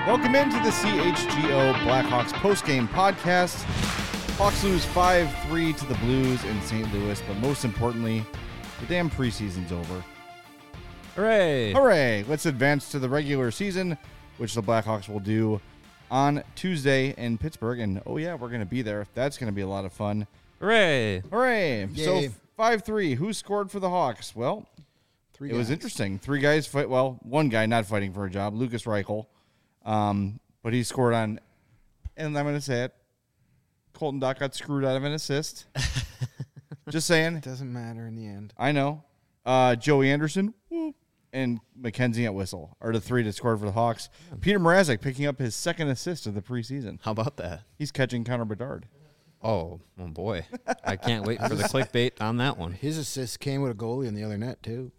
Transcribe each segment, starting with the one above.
Welcome into the CHGO Blackhawks postgame podcast. Hawks lose 5-3 to the Blues in St. Louis, but most importantly, the damn preseason's over. Hooray! Hooray! Let's advance to the regular season, which the Blackhawks will do on Tuesday in Pittsburgh. And, oh yeah, we're going to be there. That's going to be a lot of fun. Hooray! Hooray! Yay. So 5-3. Who scored for the Hawks? Well, Three it was guys. interesting. Three guys fight. Well, one guy not fighting for a job, Lucas Reichel. But he scored on, and I'm going to say it, Colton Dach got screwed out of an assist. Just saying. It doesn't matter in the end. I know. Joey Anderson and Mackenzie at Whistle are the three that scored for the Hawks. Peter Mrazek picking up his second assist of the preseason. How about that? He's catching Connor Bedard. Oh boy. I can't wait for the clickbait on that one. His assist came with a goalie in the other net too.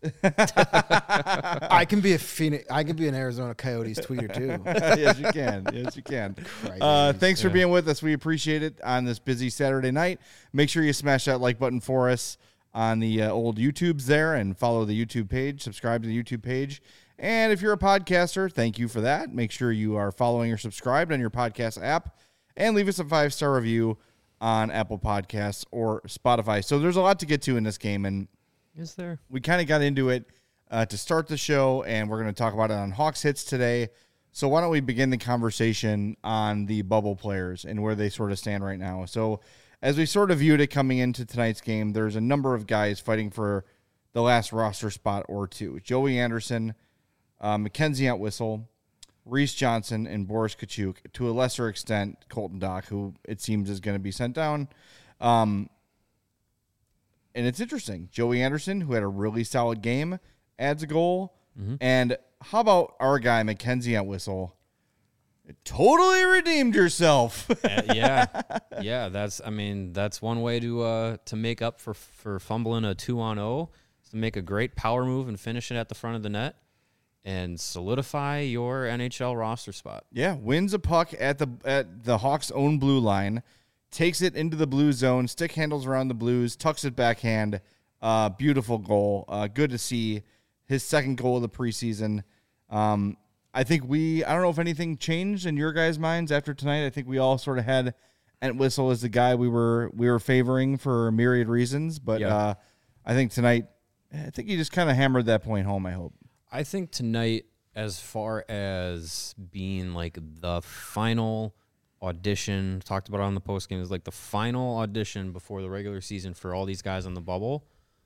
I can be an Arizona Coyotes tweeter too. Yes, you can. Yes, you can. Thanks for being with us. We appreciate it on this busy Saturday night. Make sure you smash that like button for us on the old YouTubes there and follow the YouTube page. Subscribe to the YouTube page. And if you're a podcaster, thank you for that. Make sure you are following or subscribed on your podcast app and leave us a 5-star review on Apple Podcasts or Spotify. So there's a lot to get to in this game, and Is there? we kind of got into it to start the show, and we're going to talk about it on Hawks Hits today. So why don't we begin the conversation on the bubble players and where they sort of stand right now. So as we sort of viewed it coming into tonight's game, there's a number of guys fighting for the last roster spot or two. Joey Anderson, Mackenzie Entwistle, Reese Johnson, and Boris Kachuk. To a lesser extent, Colton Dach, who it seems is going to be sent down. And it's interesting. Joey Anderson, who had a really solid game, adds a goal. Mm-hmm. And how about our guy, Mackenzie Entwistle? Totally redeemed yourself. Yeah. That's one way to make up for fumbling a 2-on-0, is to make a great power move and finish it at the front of the net and solidify your NHL roster spot. Yeah, wins a puck at the Hawks' own blue line, takes it into the blue zone, stick handles around the Blues, tucks it backhand. Beautiful goal. Good to see his second goal of the preseason. I think I don't know if anything changed in your guys' minds after tonight. I think we all sort of had Entwistle as the guy we were favoring for myriad reasons, but Yeah. I think tonight, I think he just kind of hammered that point home, I hope. I think tonight, as far as being like the final audition, talked about it on the postgame, is like the final audition before the regular season for all these guys on the bubble.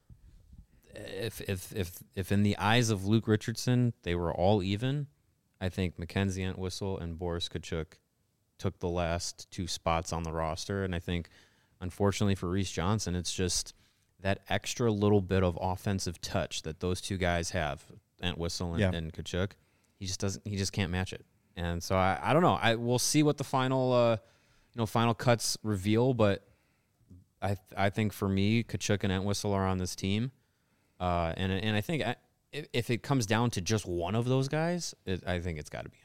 If in the eyes of Luke Richardson they were all even, I think Mackenzie Entwistle and Boris Kachuk took the last two spots on the roster, and I think, unfortunately for Reese Johnson, it's just that extra little bit of offensive touch that those two guys have. Entwistle and Kachuk, he just can't match it, and so I don't know. We'll see what the final final cuts reveal, but I think for me, Kachuk and Entwistle are on this team, and I think if it comes down to just one of those guys, I think it's got to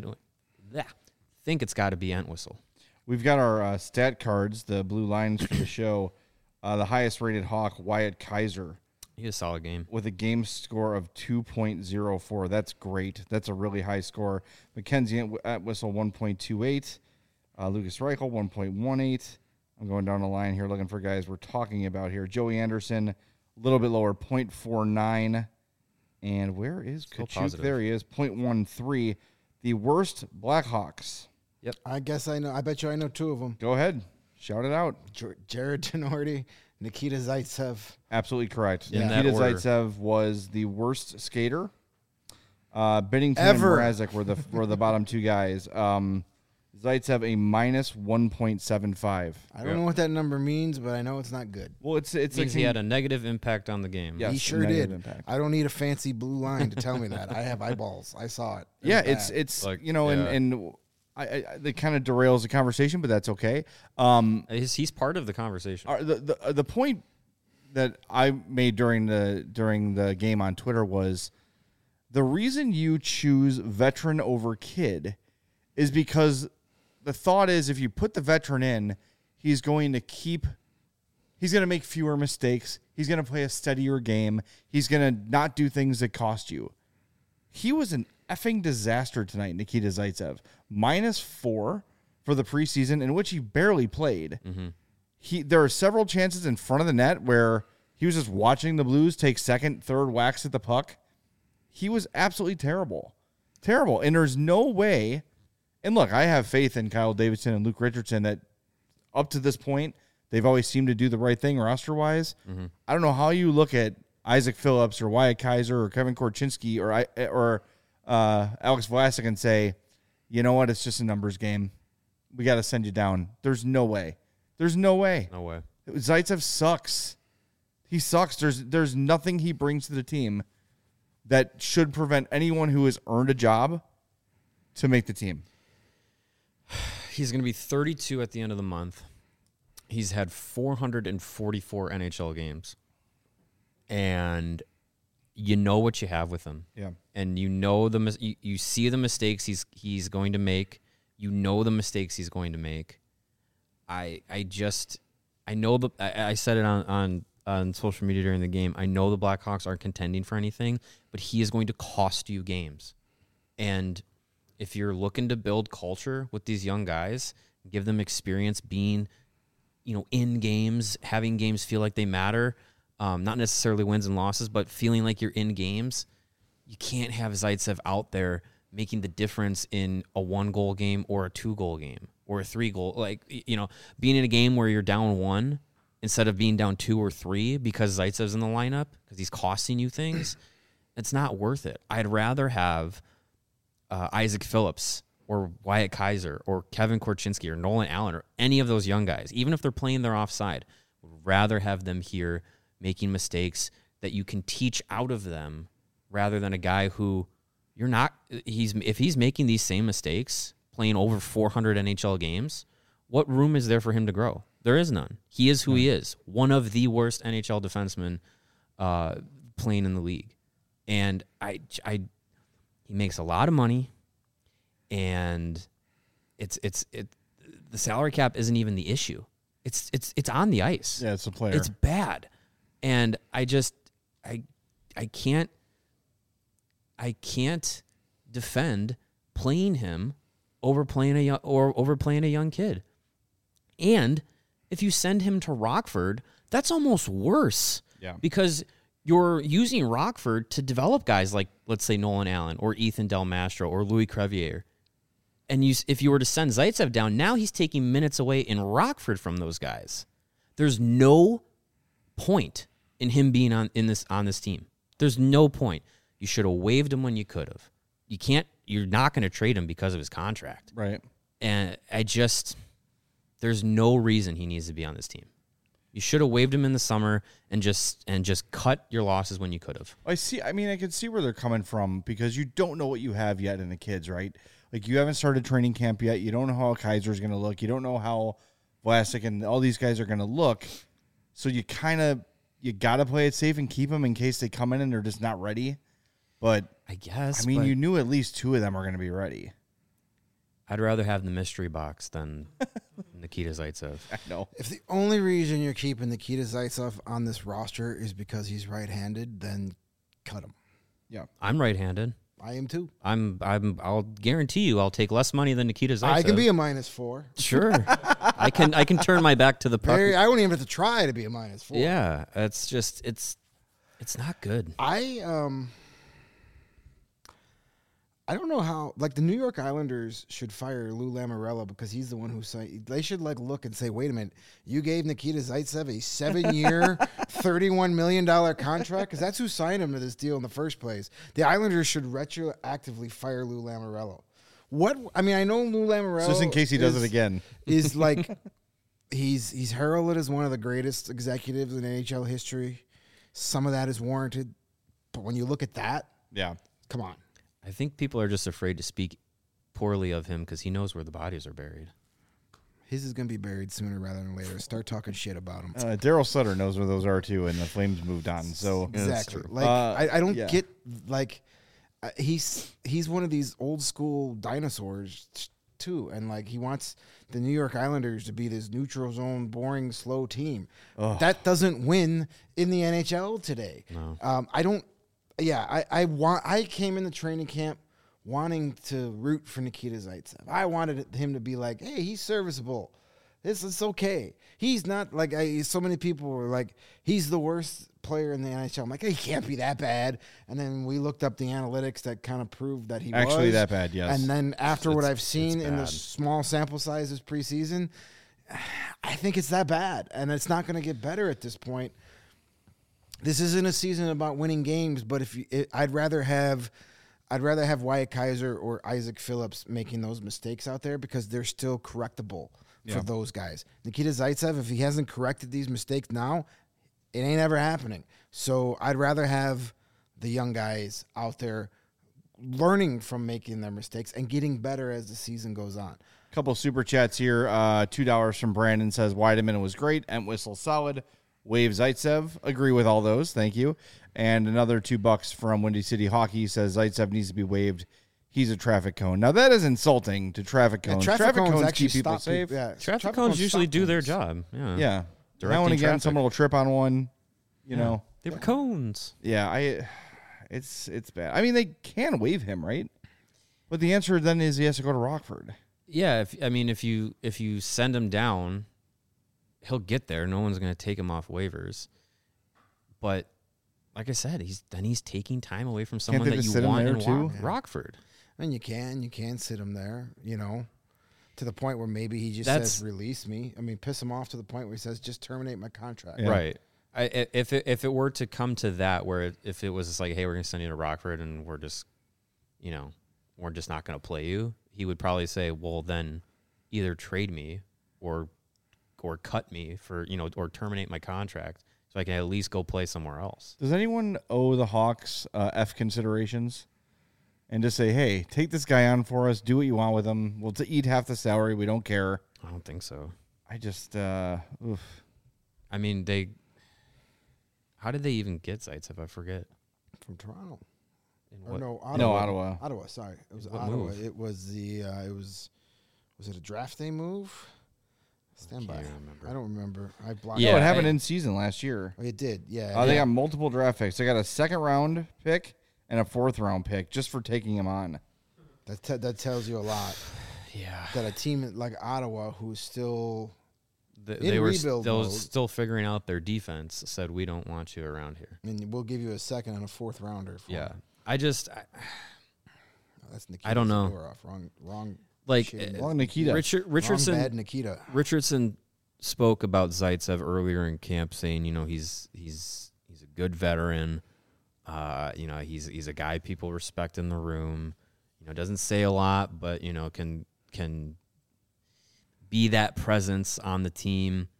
be Entwistle. We've got our stat cards, the blue lines for the show. The highest rated Hawk, Wyatt Kaiser, He had a solid game with a game score of 2.04. That's great. That's a really high score. Mackenzie Entwistle 1.28. Lucas Reichel 1.18. I'm going down the line here looking for guys we're talking about here. Joey Anderson, a little bit lower, 0.49. And where is Kachuk? Positive. There he is, 0.13. The worst Blackhawks. I guess I know. I bet you I know two of them. Go ahead. Shout it out. Jared Tenorti, Nikita Zaitsev. Absolutely correct. In Nikita that order. Zaitsev was the worst skater. Binnington Ever. and Mrazek were the bottom two guys. Zaitsev a minus 1.75. I don't know what that number means, but I know it's not good. Well, it's means he had a negative impact on the game. Yes, he a sure negative did. impact. I don't need a fancy blue line to tell me that. I have eyeballs. I saw it. Yeah, was bad. it's Like, you know, yeah. and I that kind of derails the conversation, but that's okay. He's part of the conversation. The point that I made during the game on Twitter was the reason you choose veteran over kid is because the thought is if you put the veteran in, he's going to make fewer mistakes. He's going to play a steadier game. He's going to not do things that cost you. He was an effing disaster tonight, Nikita Zaitsev. -4 for the preseason, in which he barely played. There are several chances in front of the net where he was just watching the Blues take second, third whacks at the puck. He was absolutely terrible. Terrible. And there's no way. And look, I have faith in Kyle Davidson and Luke Richardson that up to this point, they've always seemed to do the right thing roster-wise. I don't know how you look at Isaac Phillips or Wyatt Kaiser or Kevin Korchinski or Alex Vlasic and say, you know what, it's just a numbers game. We got to send you down. There's no way. There's no way. No way. Zaitsev sucks. He sucks. There's nothing he brings to the team that should prevent anyone who has earned a job to make the team. He's going to be 32 at the end of the month. He's had 444 NHL games. And you know what you have with him. Yeah. And you know you see the mistakes he's going to make. You know the mistakes he's going to make. I know I said it on social media during the game. I know the Blackhawks aren't contending for anything, but he is going to cost you games. And if you're looking to build culture with these young guys, give them experience being, in games, having games feel like they matter, not necessarily wins and losses, but feeling like you're in games, you can't have Zaitsev out there making the difference in a 1-goal game or a 2-goal game or a 3-goal. Being in a game where you're down 1 instead of being down 2 or 3 because Zaitsev's in the lineup because he's costing you things, it's not worth it. I'd rather have Isaac Phillips or Wyatt Kaiser or Kevin Korchinski or Nolan Allen or any of those young guys, even if they're playing their offside, would rather have them here making mistakes that you can teach out of them rather than a guy who if he's making these same mistakes, playing over 400 NHL games, what room is there for him to grow? There is none. He is who he is, one of the worst NHL defensemen playing in the league. And he makes a lot of money, and the salary cap isn't even the issue. It's on the ice. Yeah, it's a player. It's bad. And I can't defend playing him over playing a young kid. And if you send him to Rockford, that's almost worse. Yeah. Because you're using Rockford to develop guys like, let's say, Nolan Allen or Ethan Del Mastro or Louis Crevier. And if you were to send Zaitsev down, now he's taking minutes away in Rockford from those guys. There's no point in him being on this team. There's no point. You should have waived him when you could have. You're not going to trade him because of his contract. Right. And there's no reason he needs to be on this team. You should have waived him in the summer and just cut your losses when you could have. I can see where they're coming from because you don't know what you have yet in the kids, right? Like, you haven't started training camp yet. You don't know how Kaiser's going to look. You don't know how Vlasic and all these guys are going to look. So you got to play it safe and keep them in case they come in and they're just not ready. But I guess. you knew at least 2 of them are going to be ready. I'd rather have the mystery box than Nikita Zaitsev. I know. If the only reason you're keeping Nikita Zaitsev on this roster is because he's right-handed, then cut him. Yeah. I'm right-handed. I am too. I'll guarantee you I'll take less money than Nikita Zaitsev. I can be a -4. Sure. I can turn my back to the puck. I wouldn't even have to try to be a -4. Yeah, it's not good. I don't know how, the New York Islanders should fire Lou Lamoriello because he's the one who signed. They should look and say, wait a minute, you gave Nikita Zaitsev a 7-year, $31 million contract? Because that's who signed him to this deal in the first place. The Islanders should retroactively fire Lou Lamoriello. I know Lou Lamoriello. Just in case he does it again. Is he's heralded as one of the greatest executives in NHL history. Some of that is warranted. But when you look at that, yeah, come on. I think people are just afraid to speak poorly of him because he knows where the bodies are buried. His is going to be buried sooner rather than later. Start talking shit about him. Daryl Sutter knows where those are too, and the Flames moved on. So exactly. I don't get he's one of these old school dinosaurs too, and he wants the New York Islanders to be this neutral zone, boring, slow team. Ugh. That doesn't win in the NHL today. No. I don't. Yeah, I came into training camp wanting to root for Nikita Zaitsev. I wanted him to be like, hey, he's serviceable. It's okay. He's not like so many people were like, he's the worst player in the NHL. I'm like, he can't be that bad. And then we looked up the analytics that kind of proved that he was actually that bad. Yes. And then after what I've seen in the bad. small sample sizes preseason, I think it's that bad, and it's not going to get better at this point. This isn't a season about winning games, but I'd rather have Wyatt Kaiser or Isaac Phillips making those mistakes out there because they're still correctable for those guys. Nikita Zaitsev, if he hasn't corrected these mistakes now, it ain't ever happening. So I'd rather have the young guys out there learning from making their mistakes and getting better as the season goes on. Couple super chats here. $2 from Brandon says Weideman was great. Entwistle solid. Wave Zaitsev. Agree with all those. Thank you. And another $2 from Windy City Hockey says Zaitsev needs to be waived. He's a traffic cone. Now that is insulting to traffic cones. Traffic cones keep actually people stop safe. people. Yeah, Traffic cones usually stop do their things. job. Yeah. Yeah. Directing Now and again, traffic. someone will trip on one. You know. They were cones. Yeah. It's bad. I mean, they can waive him, right? But the answer then is he has to go to Rockford. Yeah, if you send him down, he'll get there. No one's going to take him off waivers. But like I said, he's taking time away from someone they that just you sit him want there in too? Rockford. And you can sit him there, to the point where maybe he just That's- says, release me. I mean, piss him off to the point where he says, just terminate my contract. Yeah. Right. If it were to come to that, where if it was just like, hey, we're going to send you to Rockford and we're just not going to play you, he would probably say, well, then either trade me or cut me for, or terminate my contract so I can at least go play somewhere else. Does anyone owe the Hawks F considerations? And just say, hey, take this guy on for us. Do what you want with him. We'll eat half the salary. We don't care. I don't think so. I just, oof. I mean, how did they even get Zaitsev? I forget. From Toronto. In Or what- no, Ottawa. No, Ottawa. Ottawa, sorry. It was What Ottawa. move? It was was it a draft day move? Stand by. can't remember. I don't remember. I blocked No, Yeah, it happened I- in season last year. Oh, it did. Yeah. They yeah. got multiple draft picks. They got a second round pick and a fourth round pick just for taking him on. That tells you a lot. Yeah. That a team like Ottawa, who's still They were rebuild mode. still figuring out their defense, said, we don't want you around here. and we'll give you a second and a fourth rounder. For Yeah. him. That's Nikita I don't know. Zadorov. Wrong. Like, shit. Well, Nikita. Richardson Wrong bad Nikita. Richardson spoke about Zaitsev earlier in camp, saying, he's a good veteran. He's a guy people respect in the room. Doesn't say a lot, but can be that presence on the team.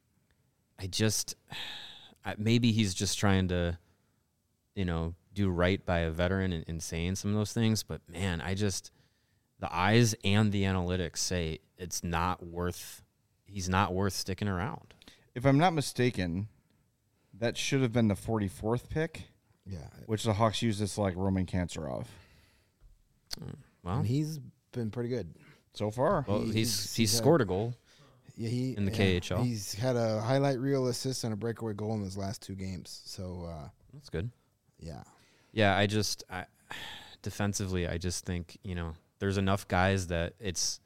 Maybe he's just trying to, do right by a veteran and saying some of those things. But man, the eyes and the analytics say he's not worth sticking around. If I'm not mistaken, that should have been the 44th pick, Yeah. which the Hawks used to select Roman Kanserov. Well, And he's been pretty good. So far. well, he's he's had- scored a goal. Yeah, In the KHL. He's had a highlight reel assist and a breakaway goal in his last 2 games. So, That's good. yeah. Yeah, I defensively, I just think, there's enough guys that it's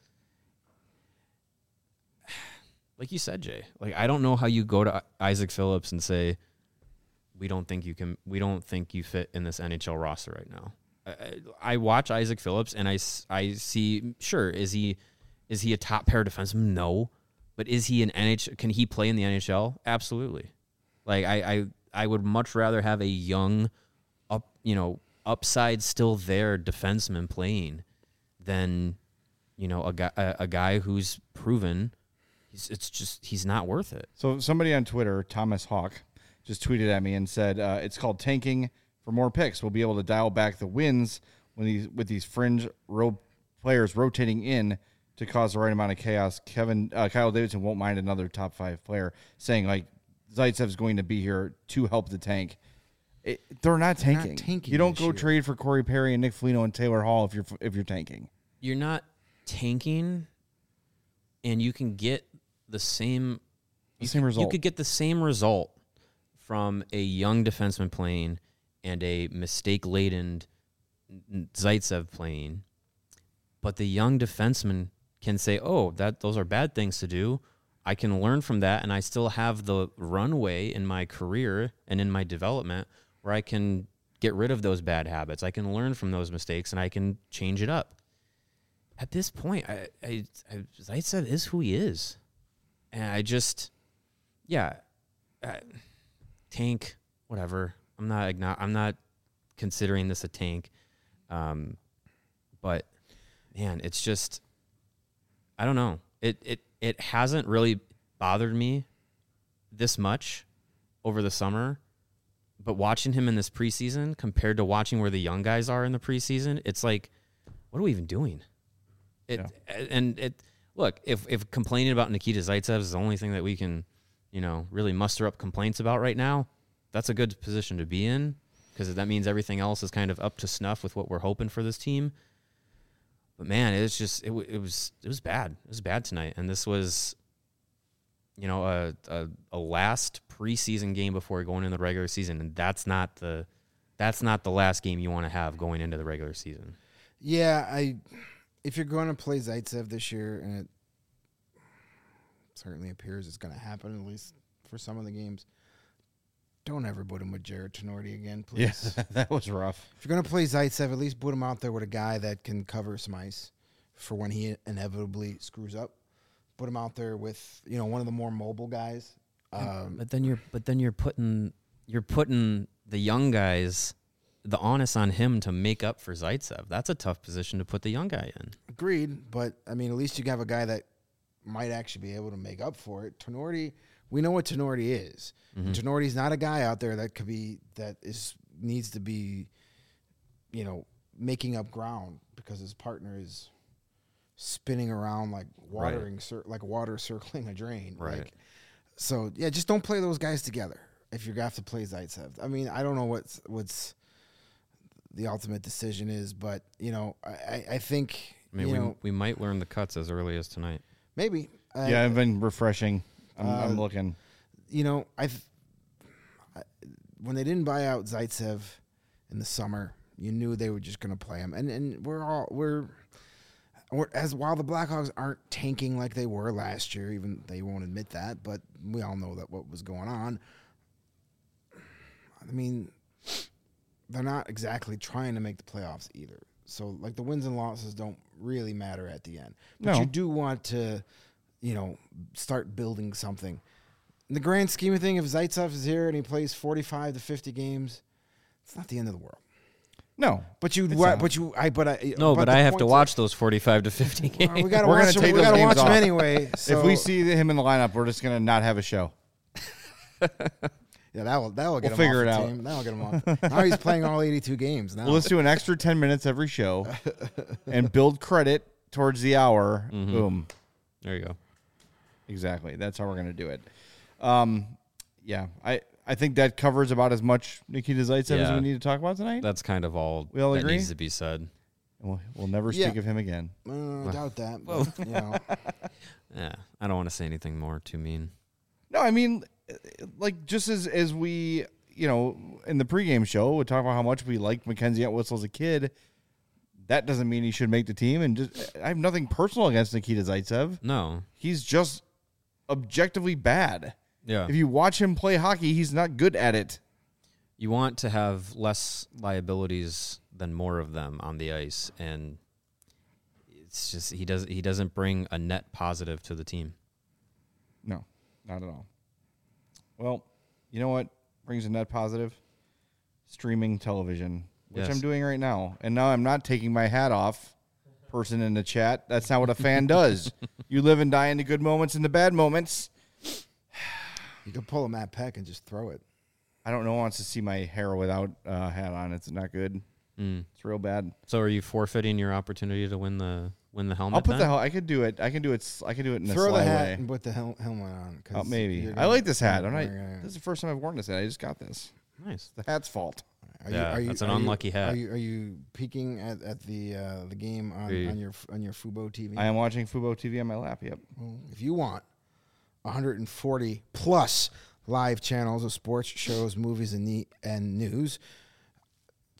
like you said, Jay. Like, I don't know how you go to Isaac Phillips and say, we don't think you fit in this NHL roster right now. I watch Isaac Phillips and I see, sure, is he a top pair defenseman? No. But is he an NHL? Can he play in the NHL? Absolutely. Like, I would much rather have a young, upside still there defenseman playing than, a guy who's proven he's not worth it. So somebody on Twitter, Thomas Hawk, just tweeted at me and said, it's called tanking for more picks. We'll be able to dial back the wins with these fringe players rotating in to cause the right amount of chaos. Kyle Davidson won't mind another top 5 player, saying like Zaitsev's going to be here to help the tank. They're not tanking. tanking You don't this go year. trade for Corey Perry and Nick Foligno and Taylor Hall if you're tanking. You're not tanking, and you can get the same result. You could get the same result from a young defenseman playing and a mistake-laden Zaitsev playing But the young defenseman can say, oh, those are bad things to do. I can learn from that, and I still have the runway in my career and in my development where I can get rid of those bad habits. I can learn from those mistakes, and I can change it up. At this point, Zaitsev is who he is. And I just, tank, whatever. I'm not considering this a tank. But man, it's just, I don't know. It hasn't really bothered me this much over the summer, but watching him in this preseason compared to watching where the young guys are in the preseason, it's like, what are we even doing? Look, if complaining about Nikita Zaitsev is the only thing that we can, really muster up complaints about right now, that's a good position to be in, because that means everything else is kind of up to snuff with what we're hoping for this team. But man, it was bad. It was bad tonight, and this was, a last preseason game before going into the regular season, and that's not the last game you want to have going into the regular season. Yeah, if you're going to play Zaitsev this year, and it certainly appears it's going to happen, at least for some of the games, don't ever put him with Jared Tenorti again, please. Yeah, that was rough. If you're going to play Zaitsev, at least put him out there with a guy that can cover some ice for when he inevitably screws up. Put him out there with, one of the more mobile guys. But then you're putting the young guys, the onus on him to make up for Zaitsev. That's a tough position to put the young guy in. Agreed, but at least you have a guy that might actually be able to make up for it. Tenorti, we know what Tenorti is. Mm-hmm. Tenorti's not a guy out there needs to be, making up ground because his partner is spinning around like water circling a drain. Right. Just don't play those guys together if you're going to have to play Zaitsev. I don't know what's the ultimate decision is, but I think we might learn the cuts as early as tonight. Maybe. I've been refreshing. I'm looking. When they didn't buy out Zaitsev in the summer, you knew they were just going to play him, and while the Blackhawks aren't tanking like they were last year, even they won't admit that, but we all know that what was going on. They're not exactly trying to make the playoffs either. So, the wins and losses don't really matter at the end. But you do want to, start building something. In the grand scheme of things, if Zaitsev is here and he plays 45 to 50 games, it's not the end of the world. No, but I have to watch those 45 to 50 games. Well, we got to watch them. We got to watch them anyway. So. If we see him in the lineup, we're just gonna not have a show. Yeah, that'll get him figure off it the out. team. That'll get him off. Now he's playing all 82 games now. Well, let's do an extra 10 minutes every show and build credit towards the hour. Mm-hmm. Boom. There you go. Exactly. That's how we're going to do it. I think that covers about as much Nikita Zaitsev as we need to talk about tonight. That's kind of all we all that agree? needs to be said. We'll never speak of him again. I doubt that. But, Yeah, I don't want to say anything more too mean. No, just as we, in the pregame show, we talk about how much we liked Mackenzie Entwistle as a kid. That doesn't mean he should make the team. And I have nothing personal against Nikita Zaitsev. No. He's just objectively bad. Yeah. If you watch him play hockey, he's not good at it. You want to have less liabilities than more of them on the ice, and it's just he doesn't bring a net positive to the team. No, not at all. Well, you know what brings a net positive? Streaming television, which I'm doing right now. And now I'm not taking my hat off, person in the chat. That's not what a fan does. You live and die in the good moments and the bad moments. you can pull a Matt Peck and just throw it. I don't know who wants to see my hair without a hat on. It's not good. It's real bad. So are you forfeiting your opportunity to win the helmet? I'll put then? I could do it. I can do it in a Throw sly the hat way. and put the helmet on. Oh, maybe. I like this hat. This is the first time I've worn this hat. I just got this. Nice. The hat's fault. That's an unlucky hat. Are you peeking at the game on your Fubo TV? I am watching Fubo TV on my lap. Yep. Well, if you want 140 plus live channels of sports, shows, movies, and news,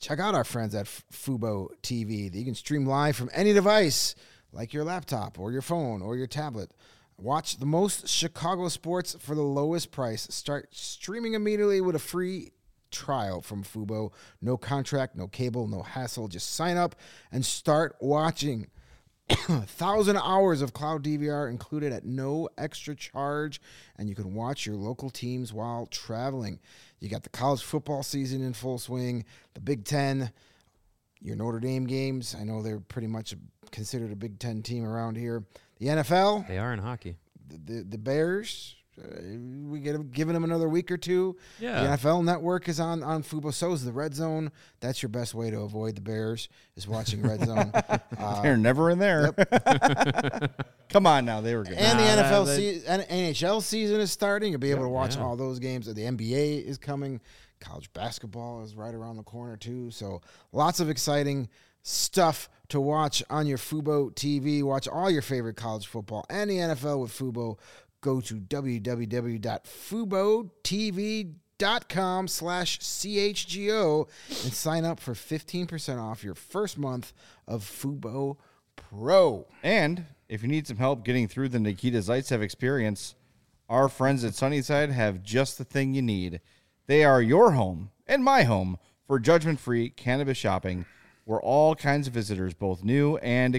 check out our friends at Fubo TV that you can stream live from any device, like your laptop or your phone or your tablet. Watch the most Chicago sports for the lowest price. Start streaming immediately with a free trial from Fubo. No contract, no cable, no hassle. Just sign up and start watching. 1,000 hours of cloud DVR included at no extra charge, and you can watch your local teams while traveling. You got the college football season in full swing, the Big Ten, your Notre Dame games. I know they're pretty much considered a Big Ten team around here. The NFL. They are in hockey. The Bears. We giving them another week or two. Yeah. The NFL Network is on Fubo. So is the Red Zone. That's your best way to avoid the Bears, is watching Red Zone. They're never in there. Come on now, they were good. And the NHL season is starting. You'll be able to watch all those games. The NBA is coming. College basketball is right around the corner too. So lots of exciting stuff to watch on your Fubo TV. Watch all your favorite college football and the NFL with Fubo. Go to www.FuboTV.com/CHGO and sign up for 15% off your first month of Fubo Pro. And if you need some help getting through the Nikita Zaitsev experience, our friends at Sunnyside have just the thing you need. They are your home and my home for judgment-free cannabis shopping, where all kinds of visitors, both new and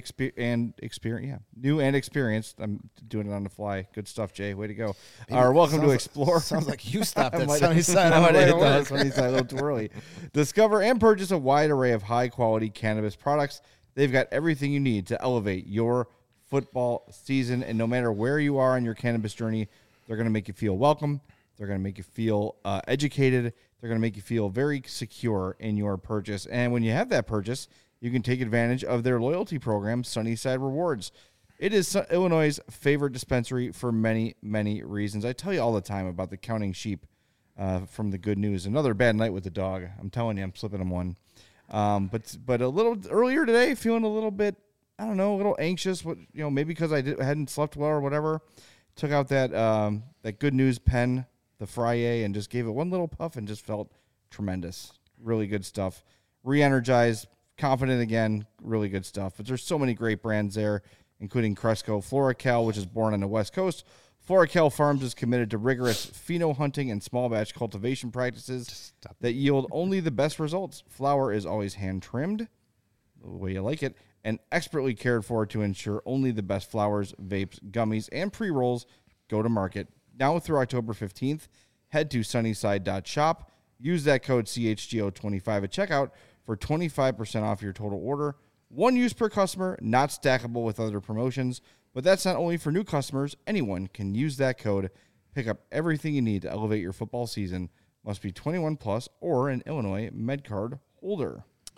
experienced. I'm doing it on the fly. Good stuff, Jay. Way to go. Are welcome to explore. Sounds like you stopped at Sunnyside. I might have hit that Sunnyside a little too early. Discover and purchase a wide array of high-quality cannabis products. They've got everything you need to elevate your football season. And no matter where you are on your cannabis journey, they're going to make you feel welcome. They're going to make you feel educated. They're going to make you feel very secure in your purchase. And when you have that purchase, you can take advantage of their loyalty program, Sunnyside Rewards. It is Illinois' favorite dispensary for many, many reasons. I tell you all the time about the counting sheep from the good news. Another bad night with the dog. I'm telling you, I'm slipping him one. But a little earlier today, feeling a little bit, I don't know, a little anxious. Maybe because I hadn't slept well or whatever. Took out that good news pen, the Frye, and just gave it one little puff and just felt tremendous. Really good stuff. Re-energized, confident again, really good stuff. But there's so many great brands there, including Cresco, FloraCal, which is born on the West Coast. FloraCal Farms is committed to rigorous pheno hunting and small batch cultivation practices that yield only the best results. Flower is always hand-trimmed, the way you like it, and expertly cared for to ensure only the best flowers, vapes, gummies, and pre-rolls go to market. Now through October 15th, head to sunnyside.shop. Use that code CHGO25 at checkout for 25% off your total order. One use per customer, not stackable with other promotions. But that's not only for new customers. Anyone can use that code. Pick up everything you need to elevate your football season. Must be 21 plus or an Illinois MedCard holder.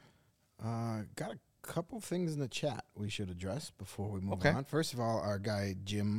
Got a couple things in the chat we should address before we move on. First of all, our guy Jim.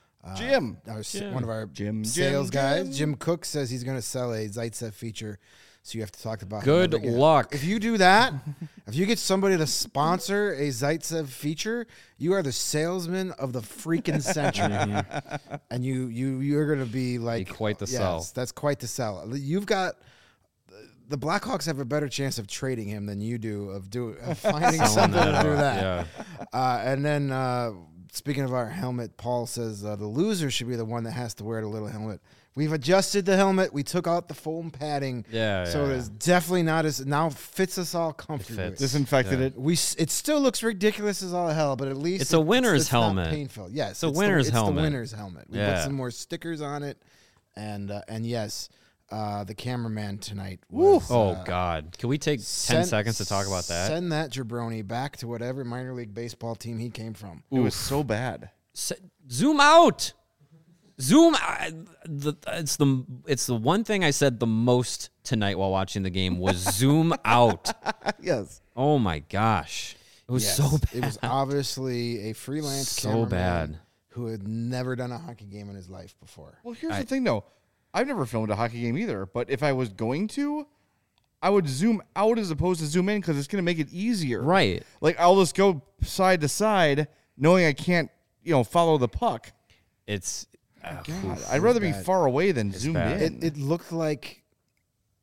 One of our sales guys, Jim Cook, says he's going to sell a Zaitsev feature, so you have to talk about good luck. If you do that, if you get somebody to sponsor a Zaitsev feature, you are the salesman of the freaking century, and you're going to be like quite the sell. That's quite the sell. You've got. The Blackhawks have a better chance of trading him than you do of finding something to do that. Yeah. And then. Speaking of our helmet, Paul says the loser should be the one that has to wear the little helmet. We've adjusted the helmet. We took out the foam padding. So it's definitely not as now fits us all comfortably. Disinfected it. It still looks ridiculous as all hell, but at least it's a winner's helmet. Not painful. Yes, it's a winner's helmet. It's the winner's helmet. We put some more stickers on it, and yes. The cameraman tonight was, God. Can we take 10 seconds to talk about that? Send that jabroni back to whatever minor league baseball team he came from. It was so bad. Zoom out. Zoom. It's the one thing I said the most tonight while watching the game was zoom out. Yes. Oh, my gosh. It was so bad. It was obviously a freelance cameraman bad. Who had never done a hockey game in his life before. Well, here's the thing, though. I've never filmed a hockey game either, but if I was going to, I would zoom out as opposed to zoom in because it's going to make it easier. Right. Like, I'll just go side to side knowing I can't, follow the puck. God, I'd rather be far away than zoomed in. It looked like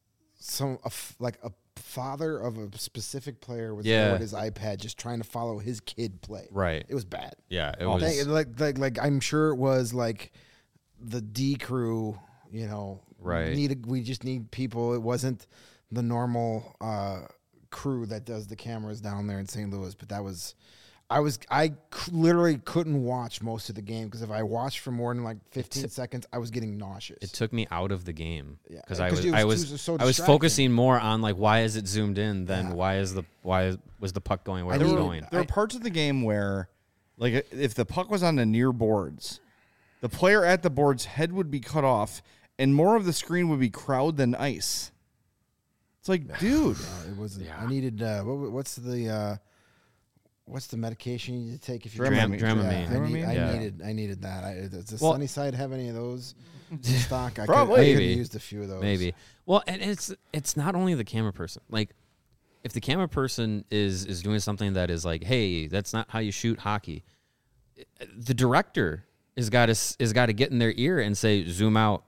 like a father of a specific player was Yeah. there with his iPad just trying to follow his kid play. Right. It was bad. Yeah, it was. Like I'm sure it was like the D crew, Right. we just need people. It wasn't the normal crew that does the cameras down there in St. Louis, but literally couldn't watch most of the game because if I watched for more than like 15 seconds, I was getting nauseous. It took me out of the game Yeah, because 'cause I it was was so I was distracting. focusing more on like why is it zoomed in than Yeah. why was the puck going where I it was needed- going. There are parts of the game where, like, if the puck was on the near boards, the player at the board's head would be cut off, and more of the screen would be crowd than ice. It's like, dude, It wasn't. Yeah. I needed. What's the medication you need to take if you're Dramamine. Dramamine. I needed that. Does the Well- Sunny Side have any of those in stock? I Probably. could Maybe. have used a few of those. Maybe. Well, and it's not only the camera person. Like, if the camera person is doing something that is like, hey, that's not how you shoot hockey. The director is got to get in their ear and say, zoom out.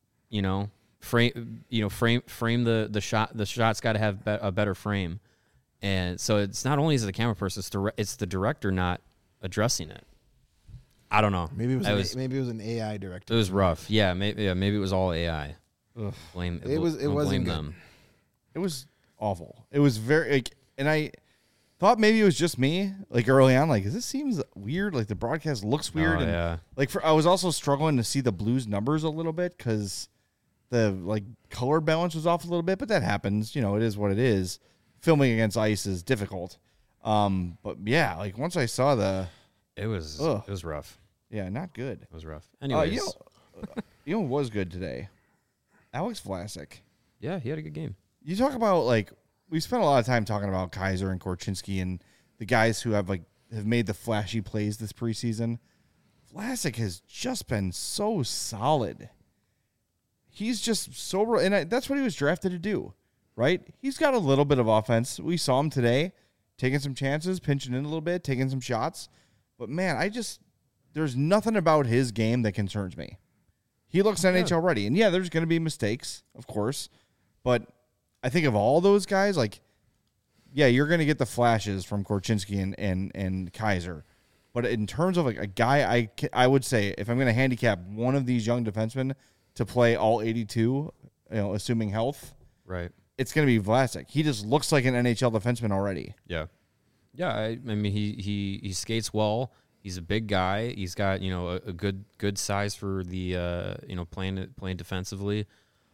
Frame the shot. The shot's got to have a better frame. And so it's not only is it the camera person, it's the director not addressing it. I don't know. Maybe it was an AI director. It was rough. Yeah, maybe it was all AI. Ugh. Blame It wasn't blame good. them. it was awful. It was very, like, and I thought maybe it was just me, like, early on, like, this seems weird. Like, the broadcast looks weird. Oh, and yeah. like, I was also struggling to see the Blues numbers a little bit because the, like, color balance was off a little bit, but that happens. It is what it is. Filming against ice is difficult. But yeah, like, once I saw It was Ugh. it was rough. yeah, not good. It was rough. Anyways, You know what was good today? Alex Vlasic. yeah, he had a good game. You talk about, like, we spent a lot of time talking about Kaiser and Korchinski and the guys who have made the flashy plays this preseason. Vlasic has just been so solid. He's just so, and that's what he was drafted to do, right? He's got a little bit of offense. We saw him today taking some chances, pinching in a little bit, taking some shots. But man, there's nothing about his game that concerns me. He looks NHL ready. And yeah, there's going to be mistakes, of course. But I think of all those guys, like, yeah, you're going to get the flashes from Korchinski and Kaiser. But in terms of, like, a guy, I would say if I'm going to handicap one of these young defensemen to play all 82, assuming health, Right. it's going to be Vlasic. He just looks like an NHL defenseman already. Yeah. Yeah, I mean he skates well. He's a big guy. He's got, a good size for the playing defensively.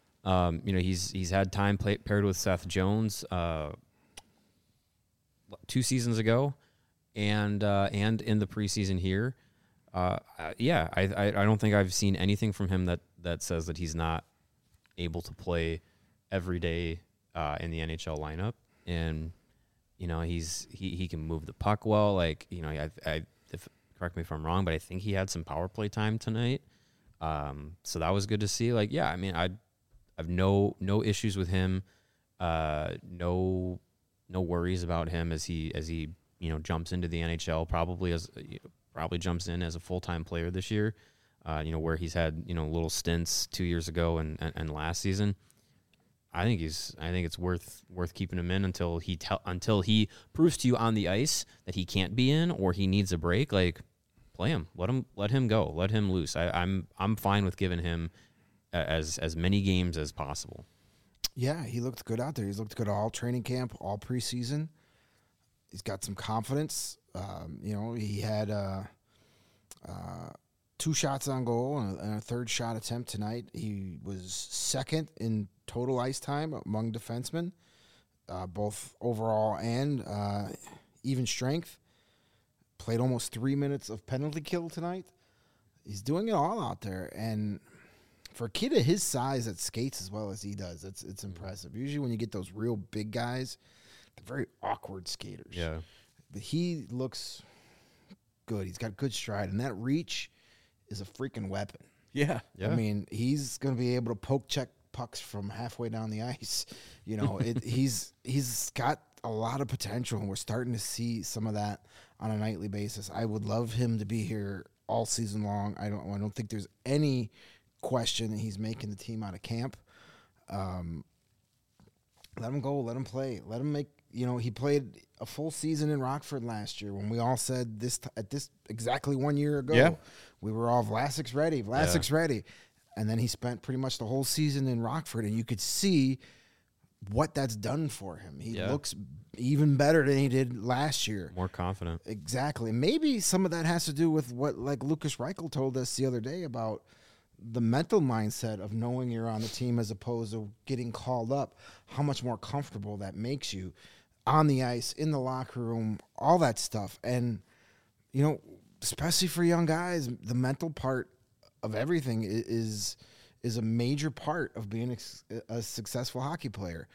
He's had time paired with Seth Jones 2 seasons ago and in the preseason here. I don't think I've seen anything from him that says that he's not able to play every day in the NHL lineup. And he can move the puck well. Like, correct me if I'm wrong, but I think he had some power play time tonight. So that was good to see. Like, yeah, I mean, I have no issues with him. No worries about him as he jumps into the NHL. Probably jumps in as a full-time player this year. Where he's had little stints 2 years ago and last season. I think it's worth keeping him in until he proves to you on the ice that he can't be in or he needs a break. Like, play him, let him go, let him loose. I'm fine with giving him as many games as possible. Yeah, he looked good out there. He's looked good all training camp, all preseason. He's got some confidence. He had 2 shots on goal and a third shot attempt tonight. He was second in total ice time among defensemen, both overall and even strength. Played almost 3 minutes of penalty kill tonight. He's doing it all out there. And for a kid of his size that skates as well as he does, it's impressive. Usually when you get those real big guys, they're very awkward skaters. Yeah. But he looks good. He's got good stride. And that reach is a freaking weapon. Yeah. Yeah. I mean, he's going to be able to poke check pucks from halfway down the ice. He's got a lot of potential, and we're starting to see some of that on a nightly basis. I would love him to be here all season long. I don't think there's any question that he's making the team out of camp. Let him go. Let him play. Let him make. He played a full season in Rockford last year when we all said at this exactly 1 year ago. Yeah. We were all Vlasic's ready. Vlasic's ready. And then he spent pretty much the whole season in Rockford, and you could see what that's done for him. He looks even better than he did last year. More confident. Exactly. Maybe some of that has to do with what Lucas Reichel told us the other day about the mental mindset of knowing you're on the team as opposed to getting called up, how much more comfortable that makes you on the ice, in the locker room, all that stuff. And, especially for young guys, the mental part of everything is a major part of being a successful hockey player.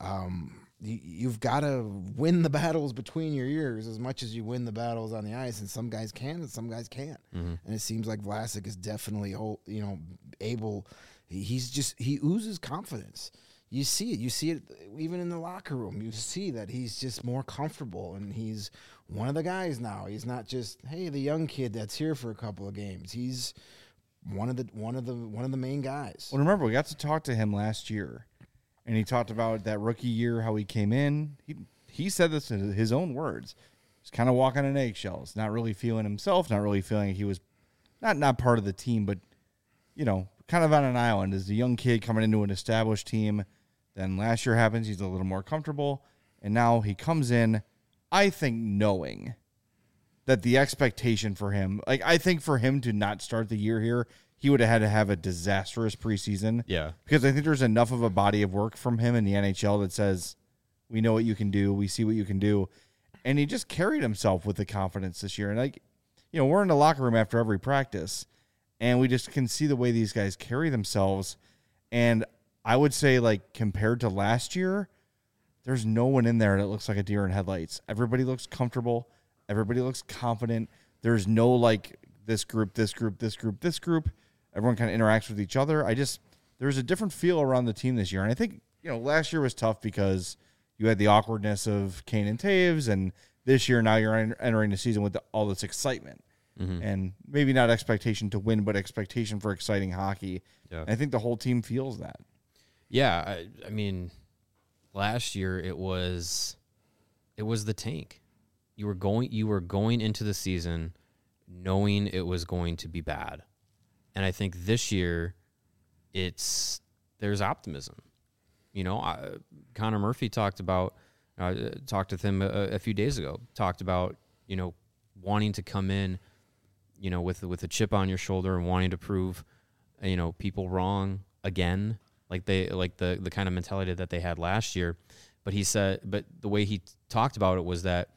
You've got to win the battles between your ears as much as you win the battles on the ice, and some guys can and some guys can't. Mm-hmm. And it seems like Vlasic is definitely able. He oozes confidence. You see it even in the locker room. You see that he's just more comfortable, and he's one of the guys now. He's not just, hey, the young kid that's here for a couple of games. He's one of the main guys. Well, remember, we got to talk to him last year, and he talked about that rookie year, how he came in. He said this in his own words. He's kind of walking on eggshells, not really feeling himself, not really feeling like he was not part of the team, but, kind of on an island as a young kid coming into an established team. Then last year happens, he's a little more comfortable, and now he comes in, I think, knowing that the expectation for him, I think for him to not start the year here, he would have had to have a disastrous preseason. Yeah. Because I think there's enough of a body of work from him in the NHL that says, we know what you can do, we see what you can do. And he just carried himself with the confidence this year. And, we're in the locker room after every practice, and we just can see the way these guys carry themselves. And I would say, compared to last year, there's no one in there that looks like a deer in headlights. Everybody looks comfortable. Everybody looks confident. There's no, this group, this group, this group, this group. Everyone kind of interacts with each other. There's a different feel around the team this year. And I think, last year was tough because you had the awkwardness of Kane and Taves, and this year now you're entering the season with all this excitement. Mm-hmm. And maybe not expectation to win, but expectation for exciting hockey. Yeah. And I think the whole team feels that. Yeah, I mean, last year it was the tank. You were going into the season knowing it was going to be bad, and I think this year there's optimism. Connor Murphy talked with him a few days ago. Talked about wanting to come in, with a chip on your shoulder and wanting to prove, people wrong again. Like the kind of mentality that they had last year. But the way he talked about it was that,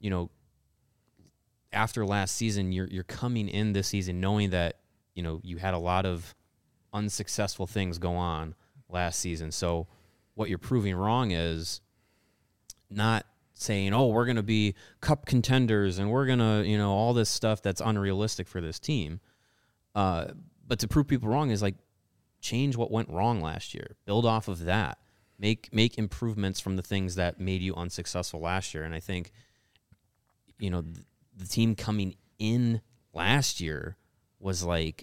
after last season, you're coming in this season knowing that, you had a lot of unsuccessful things go on last season. So what you're proving wrong is not saying, oh, we're going to be cup contenders and we're going to, all this stuff that's unrealistic for this team. But to prove people wrong is change what went wrong last year. Build off of that. Make improvements from the things that made you unsuccessful last year. And I think, the team coming in last year was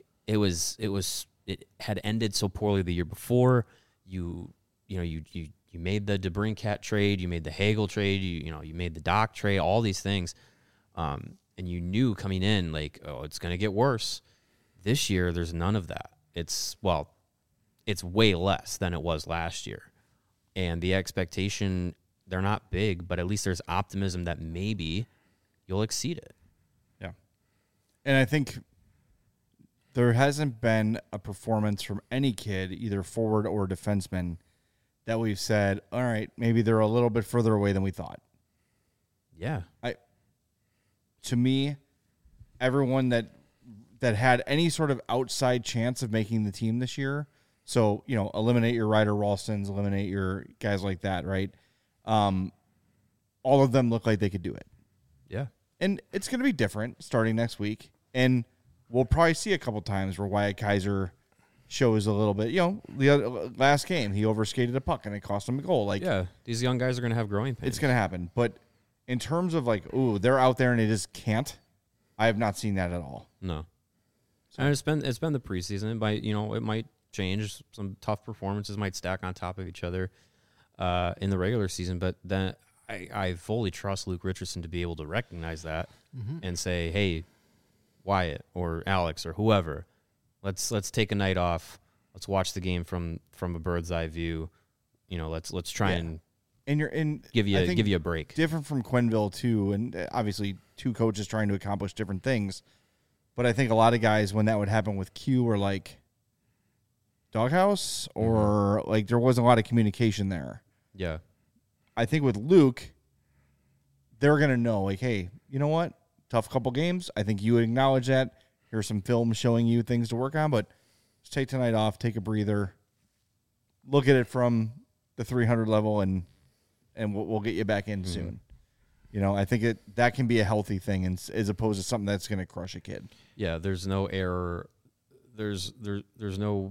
it had ended so poorly the year before. You made the DeBrincat trade, you made the Hagel trade, you made the Doc trade, all these things. And you knew coming in it's going to get worse. This year there's none of that. It's way less than it was last year. And the expectation, they're not big, but at least there's optimism that maybe you'll exceed it. Yeah. And I think there hasn't been a performance from any kid, either forward or defenseman, that we've said, all right, maybe they're a little bit further away than we thought. Yeah. To me, everyone that had any sort of outside chance of making the team this year, so, eliminate your Ryder Ralstons, eliminate your guys like that, right? All of them look like they could do it. Yeah. And it's going to be different starting next week. And we'll probably see a couple times where Wyatt Kaiser shows a little bit. The last game, he overskated a puck and it cost him a goal. These young guys are going to have growing pains. It's going to happen. But in terms of they're out there and they just can't, I have not seen that at all. No. So. And it's been the preseason. It might change. Some tough performances might stack on top of each other. in the regular season. But then I fully trust Luke Richardson to be able to recognize that and say, hey, Wyatt or Alex or whoever, let's take a night off. Let's watch the game from a bird's eye view. Let's try and you're in give you a break. Different from Quenneville too, and obviously two coaches trying to accomplish different things. But I think a lot of guys, when that would happen with Q, were like doghouse or like there wasn't a lot of communication there. Yeah. I think with Luke, they're gonna know, like, hey, you know what? Tough couple games. I think you would acknowledge that. Here's some film showing you things to work on, but just take tonight off, take a breather, look at it from the 300 level, and we'll get you back in soon. I think that can be a healthy thing, as opposed to something that's going to crush a kid. Yeah, there's no error. There's no,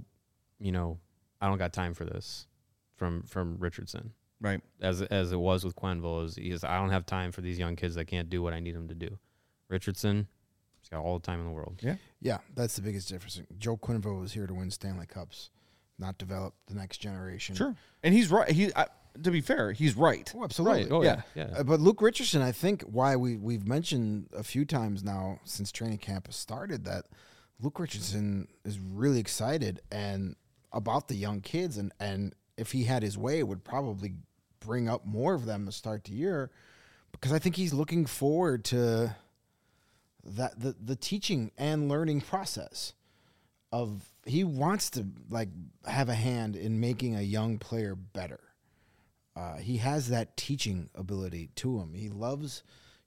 I don't got time for this from Richardson. Right. As it was with Quenneville, I don't have time for these young kids that can't do what I need them to do. Richardson, he's got all the time in the world. Yeah. Yeah, that's the biggest difference. Joe Quenneville was here to win Stanley Cups, not develop the next generation. Sure. And he's right. To be fair, he's right. Oh, absolutely. Right. Oh, yeah. But Luke Richardson, I think why we've mentioned a few times now since training camp has started that Luke Richardson is really excited and about the young kids, and if he had his way, would probably bring up more of them to start the year, because I think he's looking forward to that the teaching and learning process of he wants to like have a hand in making a young player better. He has that teaching ability to him. He loves,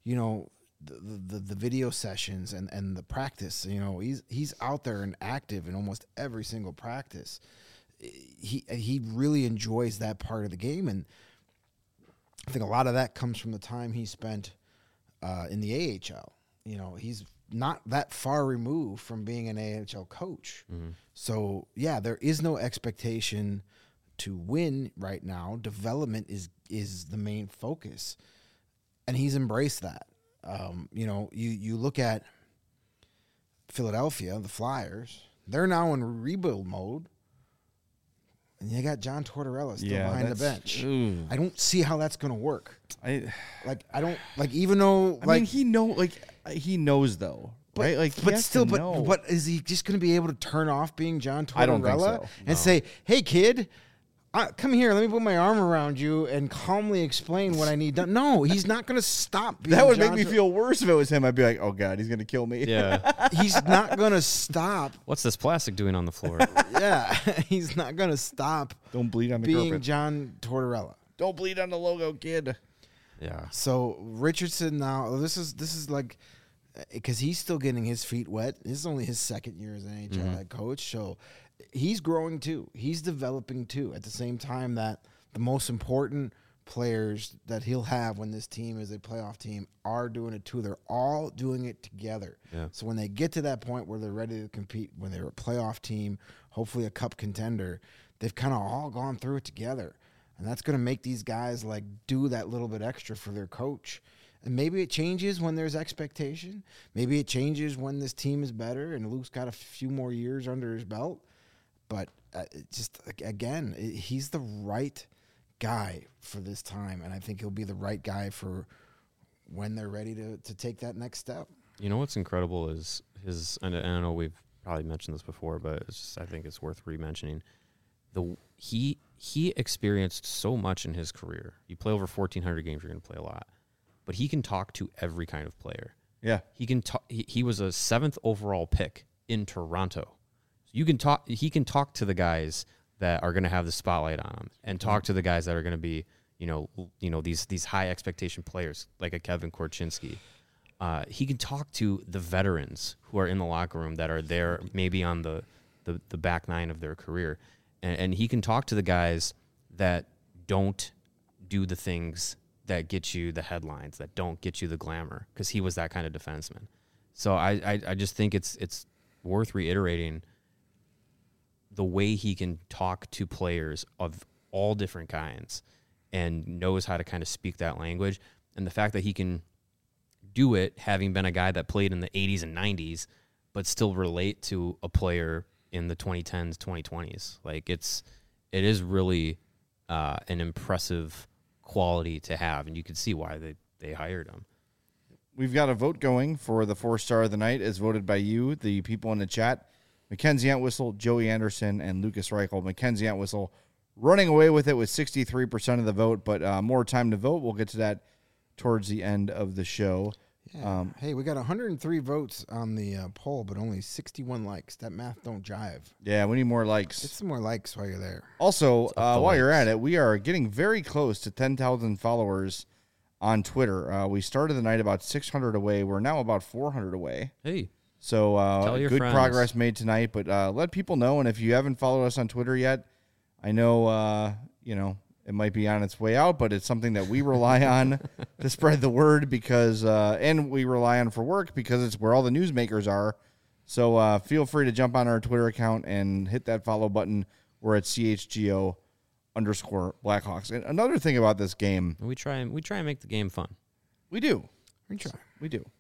the video sessions and the practice. He's out there and active in almost every single practice. He really enjoys that part of the game, and I think a lot of that comes from the time he spent in the AHL. He's not that far removed from being an AHL coach. So, yeah, there is no expectation to win right now. Development is the main focus, and he's embraced that. You look at Philadelphia, the Flyers, they're now in rebuild mode, and you got John Tortorella still behind the bench. I don't see how that's going to work. I mean, he knows though, right? Like, but is he just going to be able to turn off being John Tortorella I don't think so. and say, "Hey, kid, come here. Let me put my arm around you and calmly explain what I need done"? No, he's not going to stop. Being that would make me feel worse if it was him. I'd be like, "Oh God, he's going to kill me." Yeah, he's not going to stop. What's this plastic doing on the floor? Yeah, he's not going to stop. Don't bleed on the being carpet. John Tortorella. Don't bleed on the logo, kid. Yeah. So Richardson now, this is like, because he's still getting his feet wet. This is only his second year as an NHL head coach, so he's growing too. He's developing too. At the same time that the most important players that he'll have when this team is a playoff team are doing it too. They're all doing it together. Yeah. So when they get to that point where they're ready to compete, when they're a playoff team, hopefully a cup contender, they've kind of all gone through it together. And that's going to make these guys like do that little bit extra for their coach. And maybe it changes when there's expectation. Maybe it changes when this team is better and Luke's got a few more years under his belt. But he's the right guy for this time. And I think he'll be the right guy for when they're ready to take that next step. You know what's incredible is and I know we've probably mentioned this before, but I think it's worth re-mentioning. He experienced so much in his career. You play over 1,400 games, you're going to play a lot. But he can talk to every kind of player. Yeah. He can talk. He was a 7th overall pick in Toronto. So you can talk. He can talk to the guys that are going to have the spotlight on him, and talk to the guys that are going to be, these high expectation players like a Kevin Korchinski. He can talk to the veterans who are in the locker room that are there, maybe on the back nine of their career, and he can talk to the guys that don't do the things that get you the headlines, that don't get you the glamour, because he was that kind of defenseman. So I just think it's worth reiterating the way he can talk to players of all different kinds and knows how to kind of speak that language. And the fact that he can do it having been a guy that played in the 80s and 90s, but still relate to a player in the 2010s, 2020s. Like it is really an impressive quality to have, and you could see why they hired him. We've got a vote going for the 4-star of the night as voted by you, the people in the chat. Mackenzie Entwistle, Joey Anderson, and Lucas Reichel. Mackenzie Entwistle running away with it with 63% of the vote, but more time to vote. We'll get to that towards the end of the show. Yeah. Hey, we got 103 votes on the poll, but only 61 likes. That math don't jive. Yeah, we need more likes. Get some more likes while you're there. Also, while you're at it, we are getting very close to 10,000 followers on Twitter. We started the night about 600 away. We're now about 400 away. Hey. So Tell your good friends. progress made tonight, but let people know. And if you haven't followed us on Twitter yet, I know, it might be on its way out, but it's something that we rely on to spread the word because, and we rely on for work because it's where all the newsmakers are. So feel free to jump on our Twitter account and hit that follow button. We're at CHGO_Blackhawks. And another thing about this game, We try and make the game fun. we do. We try. We do.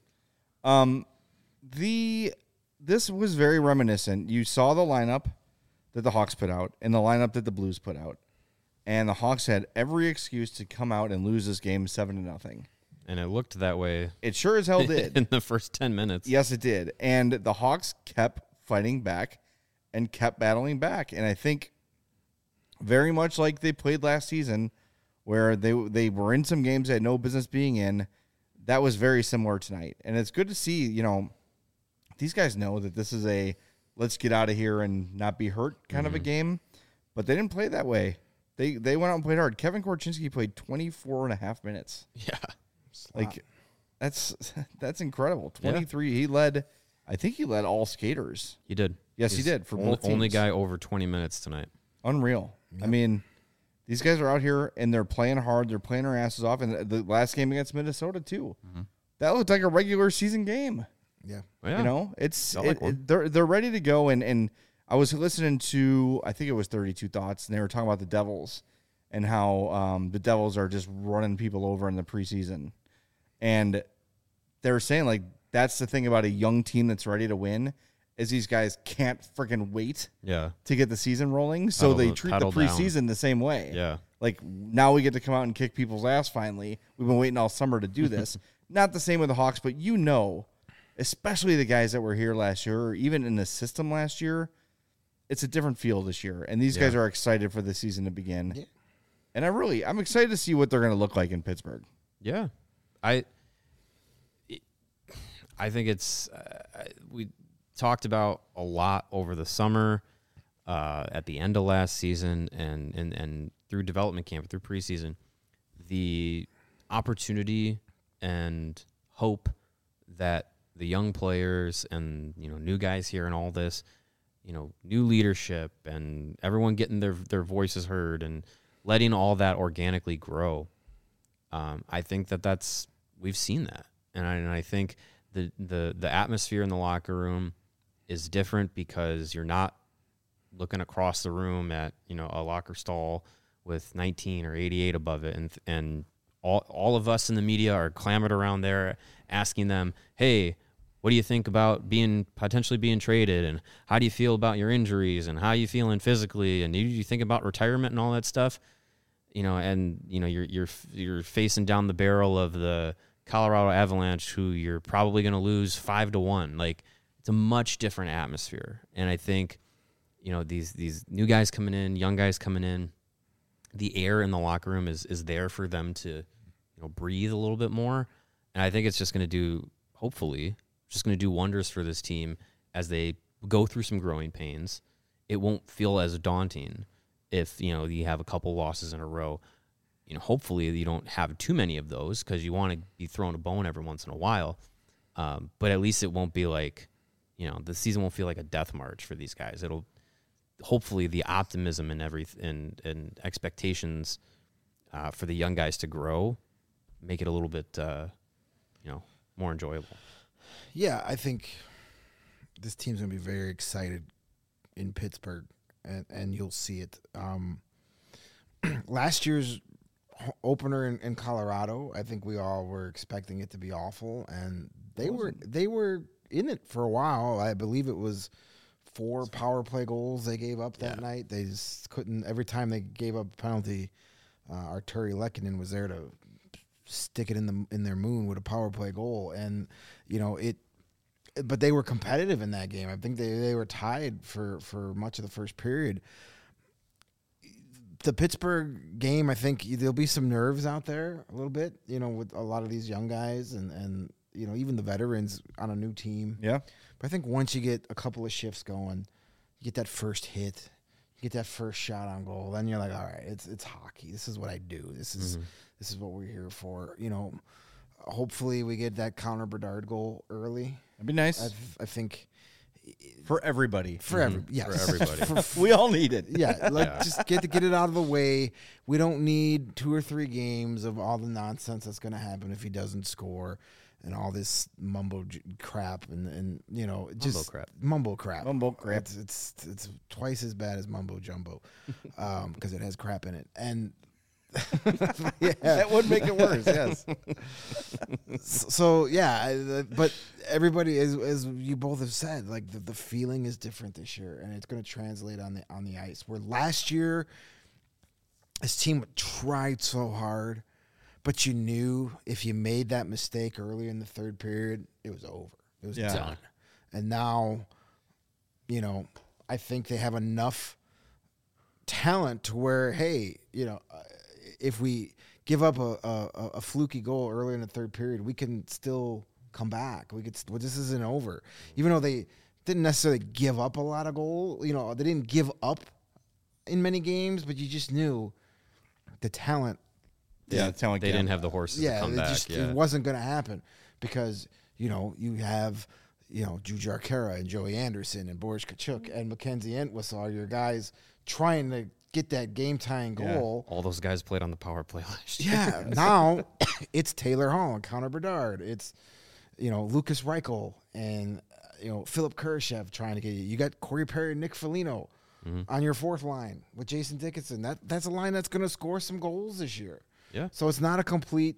This was very reminiscent. You saw the lineup that the Hawks put out and the lineup that the Blues put out. And the Hawks had every excuse to come out and lose this game 7-0. And it looked that way It sure as hell did. in the first 10 minutes. Yes, it did. And the Hawks kept fighting back and kept battling back. And I think very much like they played last season where they were in some games they had no business being in, that was very similar tonight. And it's good to see, these guys know that this is a let's get out of here and not be hurt kind of a game. But they didn't play that way. They went out and played hard. Kevin Korchinski played 24 and a half minutes. Yeah. Like, that's incredible. 23. Yeah. I think he led all skaters. He did. Yes, he did for both teams. Only guy over 20 minutes tonight. Unreal. Yep. I mean, these guys are out here and they're playing hard. They're playing their asses off. And the last game against Minnesota, too. Mm-hmm. That looked like a regular season game. Yeah. They're ready to go. And I was listening to, I think it was 32 Thoughts, and they were talking about the Devils and how the Devils are just running people over in the preseason. And they were saying, like, that's the thing about a young team that's ready to win is these guys can't freaking wait to get the season rolling. So they treat the preseason the same way. Yeah. Like, now we get to come out and kick people's ass finally. We've been waiting all summer to do this. Not the same with the Hawks, but especially the guys that were here last year or even in the system last year, it's a different feel this year, and these guys are excited for the season to begin. Yeah. And I'm excited to see what they're going to look like in Pittsburgh. Yeah, I think it's we talked about a lot over the summer, at the end of last season, and through development camp, through preseason, the opportunity and hope that the young players and new guys here and all this. New leadership and everyone getting their voices heard and letting all that organically grow. I think we've seen that. And I think the atmosphere in the locker room is different because you're not looking across the room at, a locker stall with 19 or 88 above it. And all of us in the media are clamored around there asking them, hey, what do you think about potentially being traded, and how do you feel about your injuries, and how are you feeling physically, and do you think about retirement and all that stuff? You're facing down the barrel of the Colorado Avalanche, who you're probably going to lose 5-1. Like, it's a much different atmosphere, and I think these new guys coming in, young guys coming in, the air in the locker room is there for them to breathe a little bit more, and I think it's just going to do hopefully. Just going to do wonders for this team as they go through some growing pains. It won't feel as daunting if you have a couple losses in a row. Hopefully you don't have too many of those because you want to be throwing a bone every once in a while. But at least it won't be like the season won't feel like a death march for these guys. It'll hopefully the optimism and expectations for the young guys to grow make it a little bit more enjoyable. Yeah, I think this team's going to be very excited in Pittsburgh, and you'll see it. Last year's opener in Colorado, I think we all were expecting it to be awful, and they were in it for a while. I believe it was 4 power play goals they gave up that night. They just couldn't. Every time they gave up a penalty, Arturi Lehkonen was there to stick it in their moon with a power play goal, and but they were competitive in that game. I think they were tied for much of the first period. The Pittsburgh game, I think there'll be some nerves out there a little bit, with a lot of these young guys and even the veterans on a new team. Yeah. But I think once you get a couple of shifts going, you get that first hit, you get that first shot on goal, then you're like, all right, it's hockey. This is what I do. This is what we're here for. Hopefully we get that Connor Bedard goal early. That'd be nice. I think for everybody. For everybody. We all need it. Yeah, just get it out of the way. We don't need 2 or 3 games of all the nonsense that's going to happen if he doesn't score, and all this mumbo crap and just mumbo crap. It's twice as bad as mumbo jumbo because it has crap in it, and that would make it worse. Yes. So but everybody, as you both have said, like the feeling is different this year, and it's going to translate on the ice. Where last year, this team tried so hard, but you knew if you made that mistake early in the third period, it was over. It was done. And now, I think they have enough talent to where, hey, if we give up a fluky goal early in the third period, we can still come back. This isn't over. Even though they didn't necessarily give up a lot of goals, they didn't give up in many games, but you just knew the talent. Yeah, the talent. They didn't have the horses to come back. It wasn't going to happen because, you have, Jujhar Khaira and Joey Anderson and Boris Kachuk and Mackenzie Entwistle are your guys trying to get that game-tying goal. All those guys played on the power play last year. Yeah, now it's Taylor Hall and Connor Bedard. It's, Lucas Reichel and, Philip Kurashev trying to get you. You got Corey Perry and Nick Foligno on your fourth line with Jason Dickinson. That's a line that's going to score some goals this year. Yeah. So it's not a complete,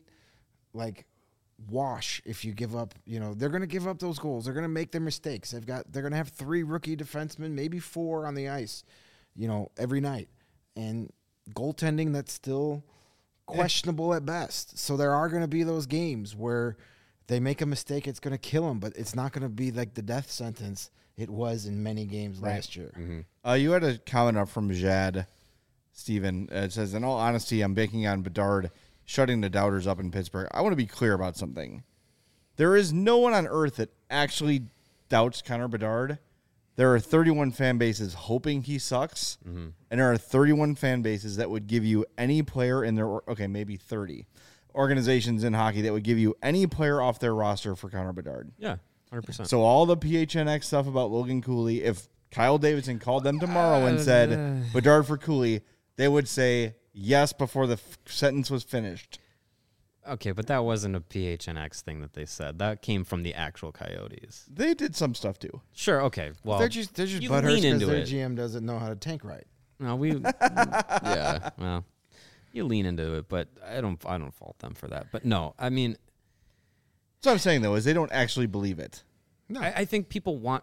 wash if you give up. They're going to give up those goals. They're going to make their mistakes. They're going to have 3 rookie defensemen, maybe 4 on the ice, every night. And goaltending that's still questionable at best. So there are going to be those games where they make a mistake, it's going to kill them, but it's not going to be like the death sentence it was in many games last year. Mm-hmm. You had a comment up from Jad, Steven. It says, in all honesty, I'm banking on Bedard shutting the doubters up in Pittsburgh. I want to be clear about something. There is no one on earth that actually doubts Connor Bedard. There are 31 fan bases hoping he sucks, and there are 31 fan bases that would give you any player in their, maybe 30 organizations in hockey that would give you any player off their roster for Connor Bedard. Yeah, 100%. So all the PHNX stuff about Logan Cooley, if Kyle Davidson called them tomorrow and said Bedard for Cooley, they would say yes before the sentence was finished. Okay, but that wasn't a PHNX thing that they said. That came from the actual Coyotes. They did some stuff too. Sure. Okay. Well, they're just butthurt because their GM doesn't know how to tank right. No, yeah. Well, you lean into it, but I don't fault them for that. But no, I mean, that's what I'm saying though is they don't actually believe it. No, I think people want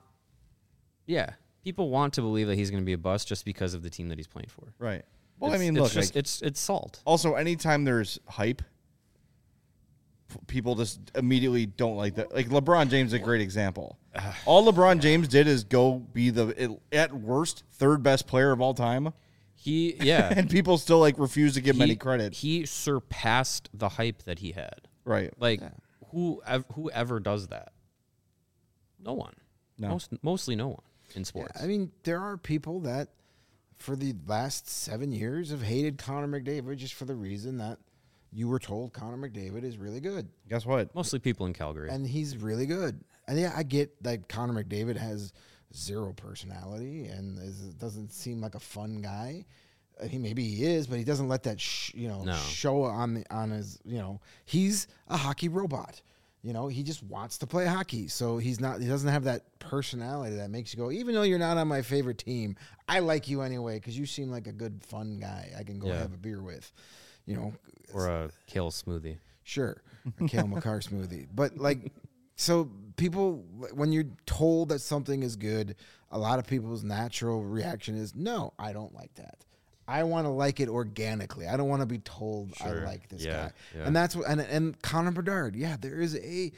to believe that he's going to be a bust just because of the team that he's playing for. Right. Well, it's salt. Also, anytime there's hype, people just immediately don't like that. Like LeBron James is a great example. All LeBron James did is go be the, at worst, 3rd best player of all time. And people still refuse to give him any credit. He surpassed the hype that he had. Right. Whoever does that? No one. No. Mostly no one in sports. Yeah, I mean, there are people that for the last 7 years have hated Connor McDavid just for the reason that you were told Connor McDavid is really good. Guess what? Mostly people in Calgary. And he's really good. And I get that Connor McDavid has 0 personality and doesn't seem like a fun guy. Maybe he is, but he doesn't let that show on his, he's a hockey robot. He just wants to play hockey. So he doesn't have that personality that makes you go, even though you're not on my favorite team, I like you anyway because you seem like a good, fun guy I can go have a beer with. Or a kale smoothie. Sure, a Kale McCarr smoothie. But So people, when you're told that something is good, a lot of people's natural reaction is, no, I don't like that. I want to like it organically. I don't want to be told I like this guy. Yeah. And that's what, and Connor Bedard, there is a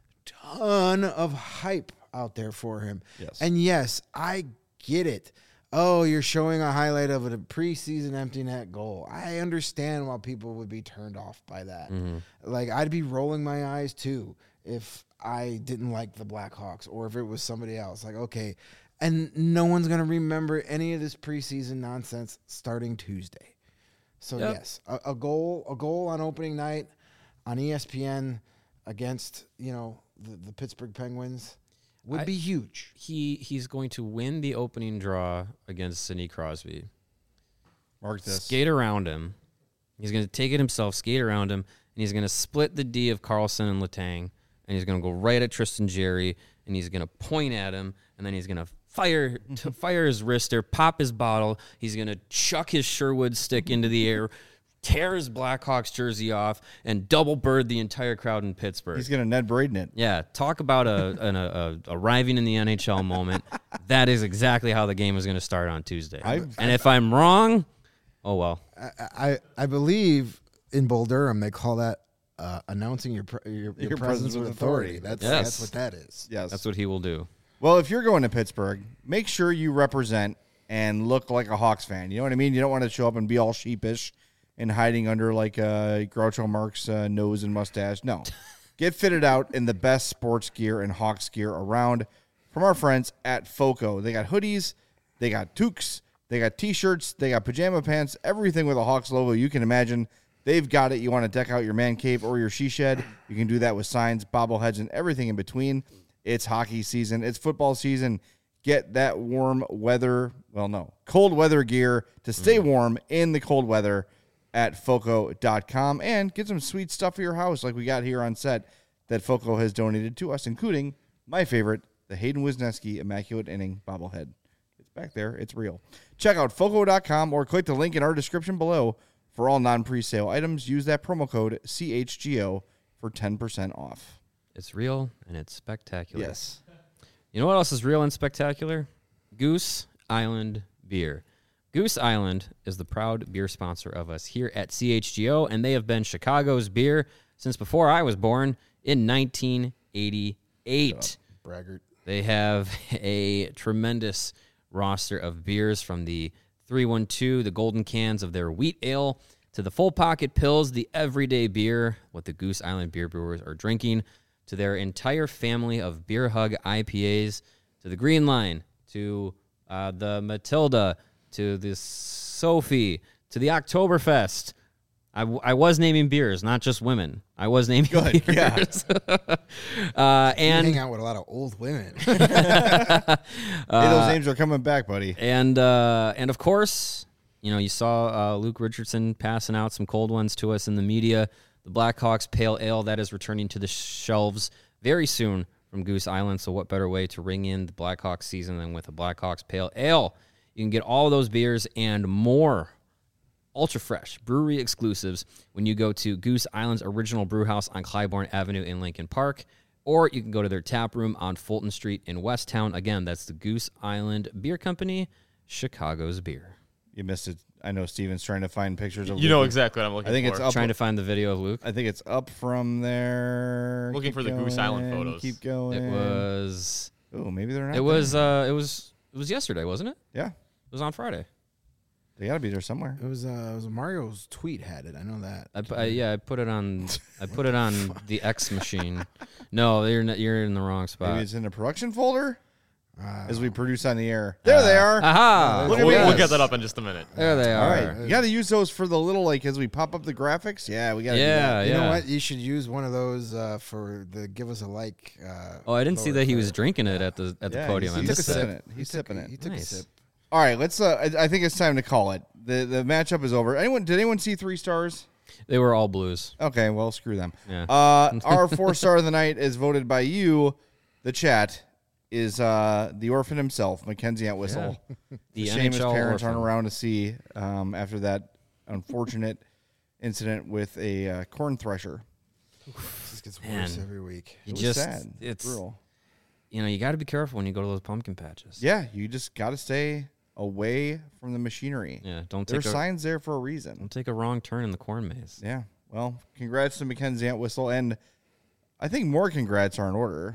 ton of hype out there for him. Yes. And yes, I get it. Oh, you're showing a highlight of a preseason empty net goal. I understand why people would be turned off by that. Like, I'd be rolling my eyes too if I didn't like the Blackhawks or if it was somebody else. Like, okay. And no one's going to remember any of this preseason nonsense starting Tuesday. So, yes, a goal on opening night on ESPN against, the Pittsburgh Penguins would be huge. He's going to win the opening draw against Sidney Crosby. Mark this. Skate around him. He's going to take it himself, skate around him, and he's going to split the D of Carlson and Letang, and he's going to go right at Tristan Jarry, and he's going to point at him, and then he's going to fire his wrister, pop his bottle. He's going to chuck his Sherwood stick into the air, tear his Blackhawks jersey off, and double bird the entire crowd in Pittsburgh. He's going to Ned Braden it. Yeah, talk about a arriving in the NHL moment. That is exactly how the game is going to start on Tuesday. And if I'm wrong, oh well. I believe in Bull Durham they call that announcing your presence with authority. That's what that is. Yes. That's what he will do. Well, if you're going to Pittsburgh, make sure you represent and look like a Hawks fan. You know what I mean? You don't want to show up and be all sheepish and hiding under like Groucho Marx nose and mustache. No. Get fitted out in the best sports gear and Hawks gear around from our friends at FOCO. They got hoodies, they got toques, they got T-shirts, they got pajama pants, everything with a Hawks logo you can imagine. They've got it. You want to deck out your man cave or your she shed, you can do that with signs, bobbleheads, and everything in between. It's hockey season. It's football season. Get that cold weather gear to stay warm in the cold weather at FOCO.com and get some sweet stuff for your house like we got here on set that FOCO has donated to us, including my favorite, the Hayden Wisniewski Immaculate Inning bobblehead. It's back there. It's real. Check out FOCO.com or click the link in our description below for all non-presale items. Use that promo code CHGO for 10% off. It's real and it's spectacular. Yes. You know what else is real and spectacular? Goose Island Beer. Goose Island is the proud beer sponsor of us here at CHGO, and they have been Chicago's beer since before I was born in 1988. Braggart. They have a tremendous roster of beers from the 312, the golden cans of their wheat ale, to the full pocket pills, the everyday beer, what the Goose Island beer brewers are drinking, to their entire family of Beer Hug IPAs, to the Green Line, to the Matilda, to the Sophie, to the Oktoberfest. I was naming beers, not just women. I was naming beers. Yeah. And you hang out with a lot of old women. Hey, those names are coming back, buddy. And of course, you saw Luke Richardson passing out some cold ones to us in the media. The Blackhawks Pale Ale, that is returning to the shelves very soon from Goose Island. So what better way to ring in the Blackhawks season than with a Blackhawks Pale Ale? You can get all of those beers and more ultra fresh brewery exclusives when you go to Goose Island's original brew house on Clybourne Avenue in Lincoln Park, or you can go to their tap room on Fulton Street in Westtown. Again, that's the Goose Island Beer Company, Chicago's beer. You missed it. I know Steven's trying to find pictures of You know exactly what I'm looking for. I think it's up. Trying to find the video of Luke. I think it's up from there. Looking for the Goose Island photos. Keep going. It was. Oh, maybe they're not. It was. It was yesterday, wasn't it? Yeah, It was on Friday. they got to be there somewhere. It was Mario's tweet had it. I know that. I put it on. I put it on the X machine. No, you're in the wrong spot. Maybe it's in the production folder as we produce on the air. There they are. Aha! Look at me. We'll get that up in just a minute. There they All are. right, you got to use those for the little as we pop up the graphics. Yeah, we got to. Yeah, You yeah. know what? You should use one of those for the give us a like. Oh, I didn't see that he was lower drinking it at the podium. I He's missed sipping that. it. He's sipping it. He took Nice. a sip. All right, let's. I think it's time to call it. The matchup is over. Did anyone see 3 stars? They were all blues. Okay, well, screw them. Yeah. Our 4-star of the night is voted by you, the chat, is the orphan himself, Mackenzie Entwistle. The Shame his NHL parents orphan. aren't around to see after that unfortunate incident with a corn thresher. just gets worse Man. every week. You It was just sad. it's Brutal. you got to be careful when you go to those pumpkin patches. Yeah, you just got to stay away from the machinery. Yeah, don't There's take signs there for a reason. don't take a wrong turn in the corn maze. Yeah. Well, congrats to Mackenzie Entwistle, and I think more congrats are in order.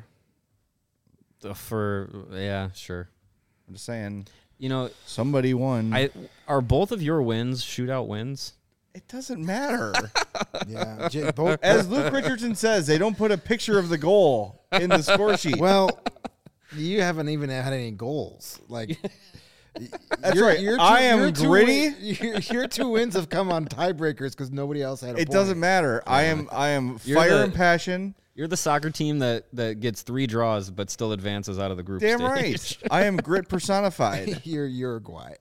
Sure. I'm just saying, You know, somebody won. are both of your wins shootout wins? It doesn't matter. Yeah, both. As Luke Richardson says, they don't put a picture of the goal in the score sheet. Well, you haven't even had any goals. Like That's right. I am gritty. Your 2 wins have come on tiebreakers because nobody else had a It point. doesn't matter. I am You're fire the- and passion. You're the soccer team that gets 3 draws but still advances out of the group Damn stage. right. I am grit personified. You're Uruguay.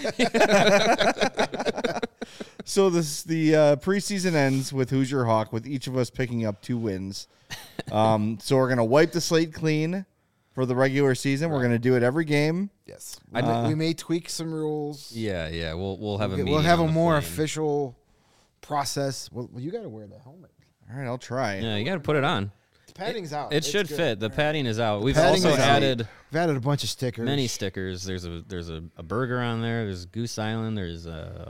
So the preseason ends with Who's Your Hawk, with each of us picking up 2 wins. So we're gonna wipe the slate clean for the regular season. We're gonna do it every game. Yes, we may tweak some rules. Yeah. We'll have a We'll meeting have on a the more plane. official process. Well, you got to wear the helmet. All right, I'll try. Yeah, you got to put it on. The padding's out. It It's should good. fit. The padding is out. We've padding also is out. added We've added a bunch of stickers. many stickers. There's a burger on there. There's Goose Island. There's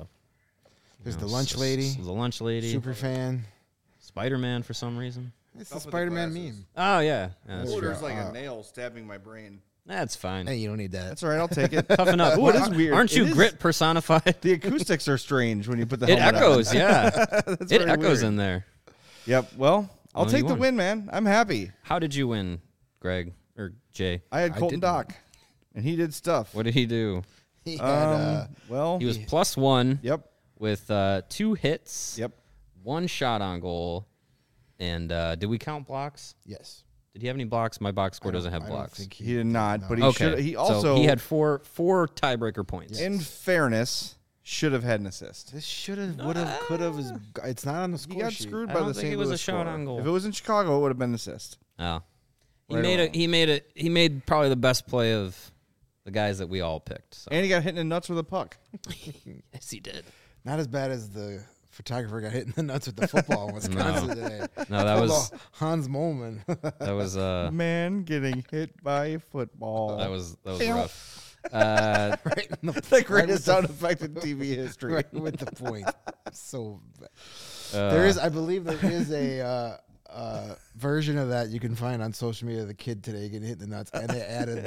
the lunch lady. The lunch lady. Super fan. Spider-Man for some reason. It's Stuff the with the Spider-Man glasses. meme. Oh yeah, that's, Oh, true. there's like a nail stabbing my brain. That's fine. Hey, you don't need that. That's all right. I'll take it. Toughen up. Ooh, it is weird. Aren't you It is- grit personified? The acoustics are strange when you put the It helmet echoes. on. Yeah, That's it very echoes weird. in there. Yep. Well, I'll Well, take you the won. win, man. I'm happy. How did you win, Greg or Jay? I had I Colton didn't. Dock, and he did stuff. What did he do? He had, Well, He was +1 yep, with 2 hits, yep. 1 shot on goal, and did we count blocks? yes. Did he have any blocks? My box score I don't- doesn't have I don't blocks. think He did not, but he Okay. should. He So also, he had four tiebreaker points. in fairness, should have had an assist. This should have, would have, could have. It's not on the score He got sheet. screwed I by don't the think St. it was a Louis shot score. on goal. If it was in Chicago, it would have been an assist. Oh, he Right made or it. He made probably the best play of the guys that we all picked. So. And he got hit in the nuts with a puck. Yes, he did. Not as bad as the photographer got hit in the nuts with the football in Wisconsin today. No, that was Although Hans Molman. that was Man getting hit by a football. that was Pew. rough. right in the, the greatest right sound effect in TV history. right with the point. So bad. Uh, There is, I believe, there is a version of that you can find on social media. The kid today getting hit in the nuts, and they added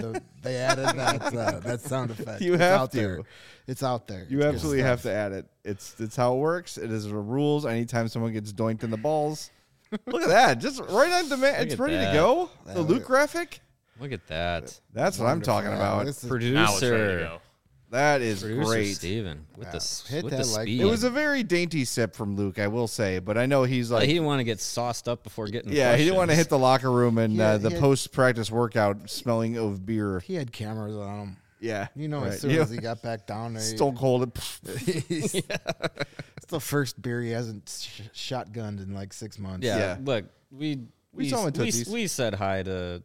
that sound effect. You It's have out to. There. It's out there. You It's good absolutely have stuff. to add it. It's how it works. It is the rules. Anytime someone gets doinked in the balls, look at that, just right on demand. Look It's at ready that. to go. The That Luke was- graphic. Look at that. That's what I'm talking Wonderful. about. This is- Now it's ready to Producer, go. That is producer great. Steven with Yeah. the s- Hit with that the like speed. It was a very dainty sip from Luke, I will say, but I know he's Like, like, he didn't want to get sauced up before getting. yeah, he didn't want to hit the locker room and Yeah, the he had- post practice workout smelling of beer. He had cameras on him. Yeah, You know, right. as soon You as he got back down there, Stone Cold. it's the first beer he hasn't shotgunned in like 6 months. Yeah, Yeah. look, we saw him at Tootsie's. we said hi to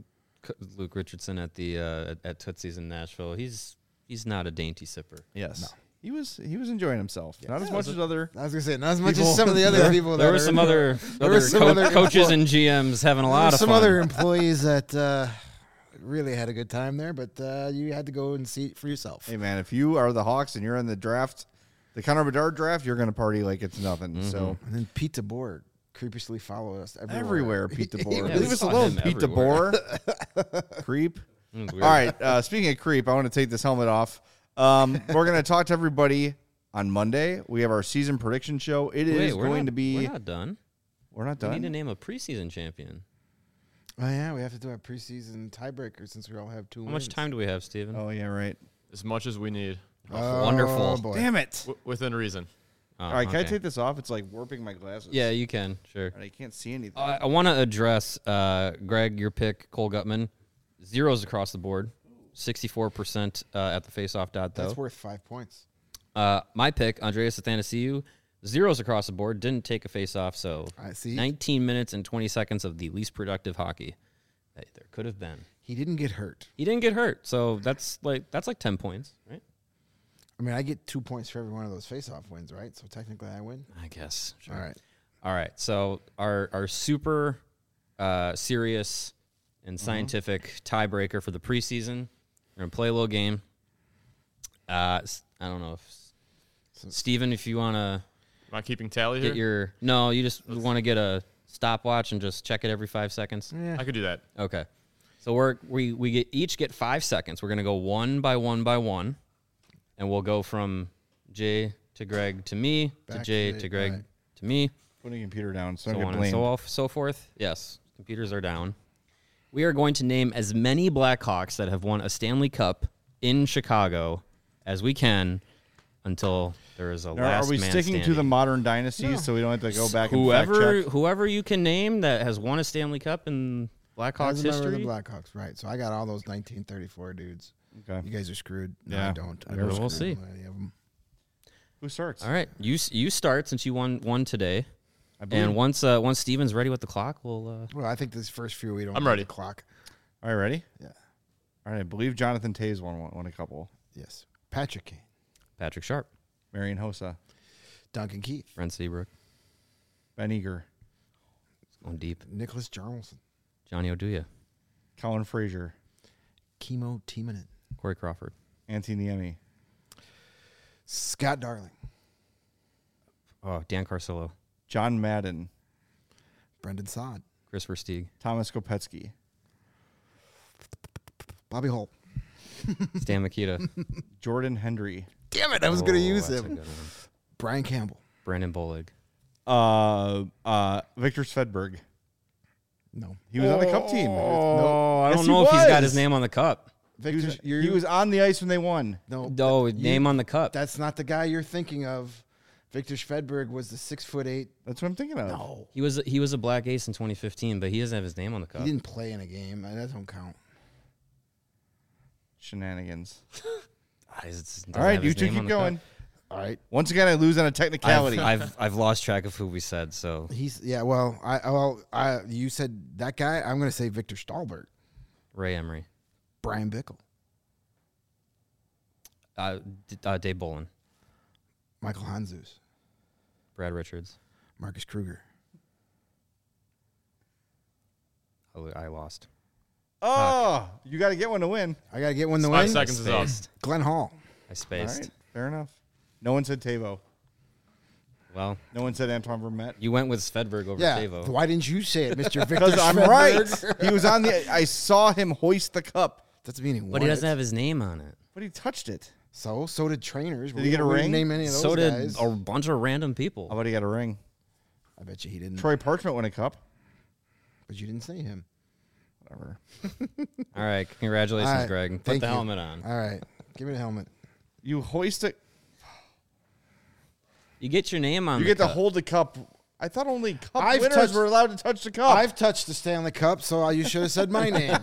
Luke Richardson at the at Tootsie's in Nashville. He's not a dainty sipper. Yes, he was enjoying himself. Not as much as other. I was gonna say not as much People- as some of the other people. There that were are some in other, There were some other coaches employ- and GMs having a There lot were of some fun. other employees that really had a good time there, but you had to go and see it for yourself. Hey man, if you are the Hawks and you're in the draft, the Connor Bedard draft, you're gonna party like it's nothing. Mm-hmm. So And then Pete DeBoer creepishly followed us everywhere, Pete DeBoer. Yeah, Leave we us saw alone, him Pete everywhere. DeBoer. Creep. It was All weird. right. Speaking of creep, I want to take this helmet off. We're gonna talk to everybody on Monday. We have our season prediction show. It is Wait, going to be. We're not done. We're not We need to done. name a preseason champion. Oh yeah, we have to do our preseason tiebreaker since we all have 2 How much time do we have, Steven? Oh yeah, right. As much as we need, Oh, wonderful. boy. Damn it! within reason. Oh, All right, can I okay. take this off? It's like warping my glasses. Yeah, you can. Sure. And I can't see anything. I want to address, Greg, your pick, Cole Gutman. Zeros across the board. 64% at the faceoff dot, though. That's worth 5 points. My pick, Andreas Athanasiou, zeros across the board. Didn't take a faceoff, so I see. 19 minutes and 20 seconds of the least productive hockey that there could have been. He didn't get hurt. He didn't get hurt, so that's like 10 points, right? I mean, I get 2 points for every one of those face-off wins, right? So technically, I win. I guess. Sure. All right. All right. So our super serious and scientific tiebreaker for the preseason. We're gonna play a little game. I don't know if Steven, if you wanna Am I keeping tally get here? you just want to get a stopwatch and just check it every 5 seconds. Yeah. I could do that. Okay. So we each get 5 seconds. We're gonna go one by one, and we'll go from Jay to Greg to me to Back Jay to to Greg right. to me. Putting the computer down, so So don't on get and blamed. so forth. Yes, computers are down. We are going to name as many Blackhawks that have won a Stanley Cup in Chicago as we can until there is a Now, last are we man sticking to standing. the modern dynasties so we don't have to go back and fact check? Whoever you can name that has won a Stanley Cup in Blackhawks As a member of history. the Blackhawks, right? So I got all those 1934 dudes. Okay. You guys are screwed. No, Yeah. I don't. I We'll don't see. screw any of them. Who starts? All right, you start since you won today, I believe. and once Steven's ready with the clock, we'll. Well, I think this first few we don't. I'm have ready. The clock. All right, ready? Yeah. All right, I believe Jonathan Tays won a couple. Yes. Patrick Kane, Patrick Sharp, Marion Hossa, Duncan Keith, Brent Seabrook, Ben Eager, going deep, Nicholas Jarmelson, Johnny Oduya, Colin Frazier, Kimo Timonen, Corey Crawford, Anthony Niemi, Scott Darling, Dan Carcillo, John Madden, Brendan Saad, Chris Versteeg, Thomas Kopetsky, Bobby Holt. Stan Mikita. Jordan Hendry, Damn it! I was going to use that's a him. good one. Brian Campbell. Brandon Bolig. Victor Svedberg. No. He was on the Cup team. Oh, I Yes, don't he know if he's got his was. name on the cup. Victor, He was on the ice when they won. no. No, name on the cup. That's not the guy you're thinking of. Victor Svedberg was the 6'8". That's what I'm thinking of. No. He was a black ace in 2015, but he doesn't have his name on the cup. He didn't play in a game. That don't count. Shenanigans. Doesn't All right, have you his two name on keep the cup. going. All right. Once again, I lose on a technicality. I've lost track of who we said. So You said that guy. I'm going to say Victor Stahlberg, Ray Emery, Brian Bickle, Dave Bolin, Michael Hanzus, Brad Richards. Marcus Kruger. I lost. Oh, you got to get one to win. I got to get one to 5 win. seconds is up. Spaced. Glenn Hall. I All spaced. right, fair enough. No one said Tavo. Well, No one said Antoine Vermette. you went with Svedberg over Yeah. Tavo. Why didn't you say it, Mr. Victor? Because I'm Svedberg? right. He was on the. I saw him hoist the cup, That's meaning. But he doesn't have his name on it. but he touched it. So did trainers. Did he get a ring? Name any of those So did guys. a bunch of random people. How about he got a ring? I bet you he didn't. Troy Parchment won a cup. But you didn't say him. Whatever. All right, congratulations, All right, Greg. Put thank the you. helmet on. All right. Give me the helmet. You hoist it. You get your name on. You the get to cup. hold the cup. I thought only cup I've winners touched- were allowed to touch the cup. I've touched the Stanley Cup, so you should have said my name.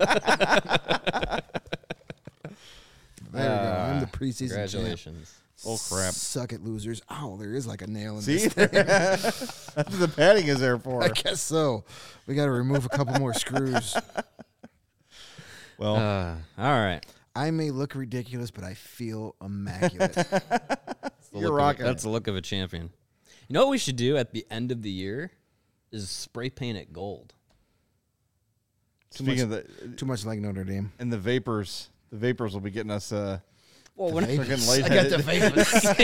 There we go. I'm the preseason champ. Congratulations. Oh crap! Suck it, losers. Oh, there is like a nail in See, this. that's what the padding is there for. I guess so. We got to remove a couple more screws. Well, All right. I may look ridiculous, but I feel immaculate. you're rocking. That's the look of a champion. You know what we should do at the end of the year is spray paint it gold. Speaking of the Too much like Notre Dame. and the vapors will be getting us. Well, Freaking I got the lightheaded.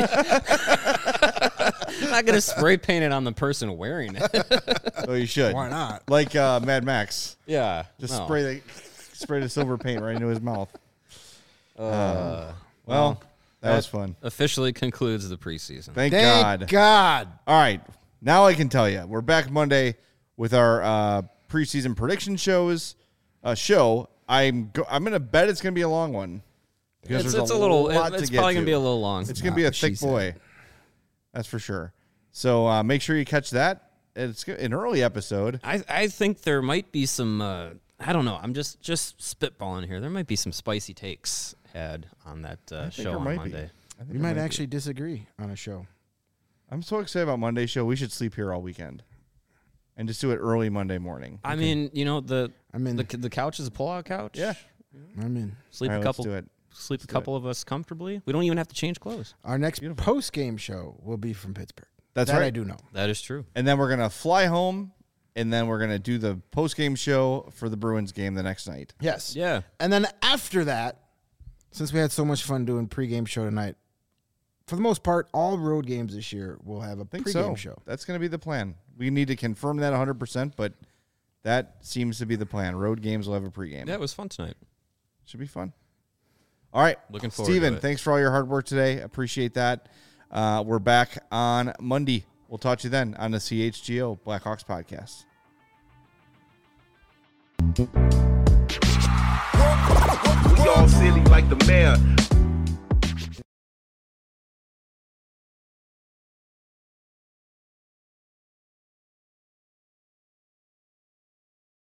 vapors. I'm not gonna spray paint it on the person wearing it. Oh, you should. Why not? Like Mad Max, Yeah, just no. spray the silver paint right into his mouth. Well, Well, that was fun. officially concludes the preseason. Thank Thank God. God. All right, now I can tell you we're back Monday with our preseason prediction shows. I'm gonna bet it's gonna be a long one because It's there's a little. lot It's to get probably gonna to. be a little long. It's gonna be a She thick said. boy, that's for sure. So make sure you catch that. It's an early episode. I think there might be some. I don't know. I'm just spitballing here. There might be some spicy takes had on that think show there on might be. Monday. I think We it might be. actually disagree on a show. I'm so excited about Monday's show. We should sleep here all weekend, and just do it early Monday morning. I mean, you know the I'm in. the couch is a pull-out couch. Yeah. I'm in. Sleep All a right, couple. Let's do it. Sleep a couple of us comfortably. We don't even have to change clothes. Our next post-game show will be from Pittsburgh. That's that right. I do know. That is true. And then we're going to fly home, and then we're going to do the post-game show for the Bruins game the next night. Yes. Yeah. And then after that, since we had so much fun doing pregame show tonight, for the most part, all road games this year will have a think pregame so. show. That's going to be the plan. We need to confirm that 100%, but that seems to be the plan. Road games will have a pregame. Yeah, it was fun tonight. Should be fun. All right. Looking forward Steven, to it. thanks for all your hard work today. Appreciate that. We're back on Monday. We'll talk to you then on the CHGO Blackhawks podcast. We all silly like the mayor.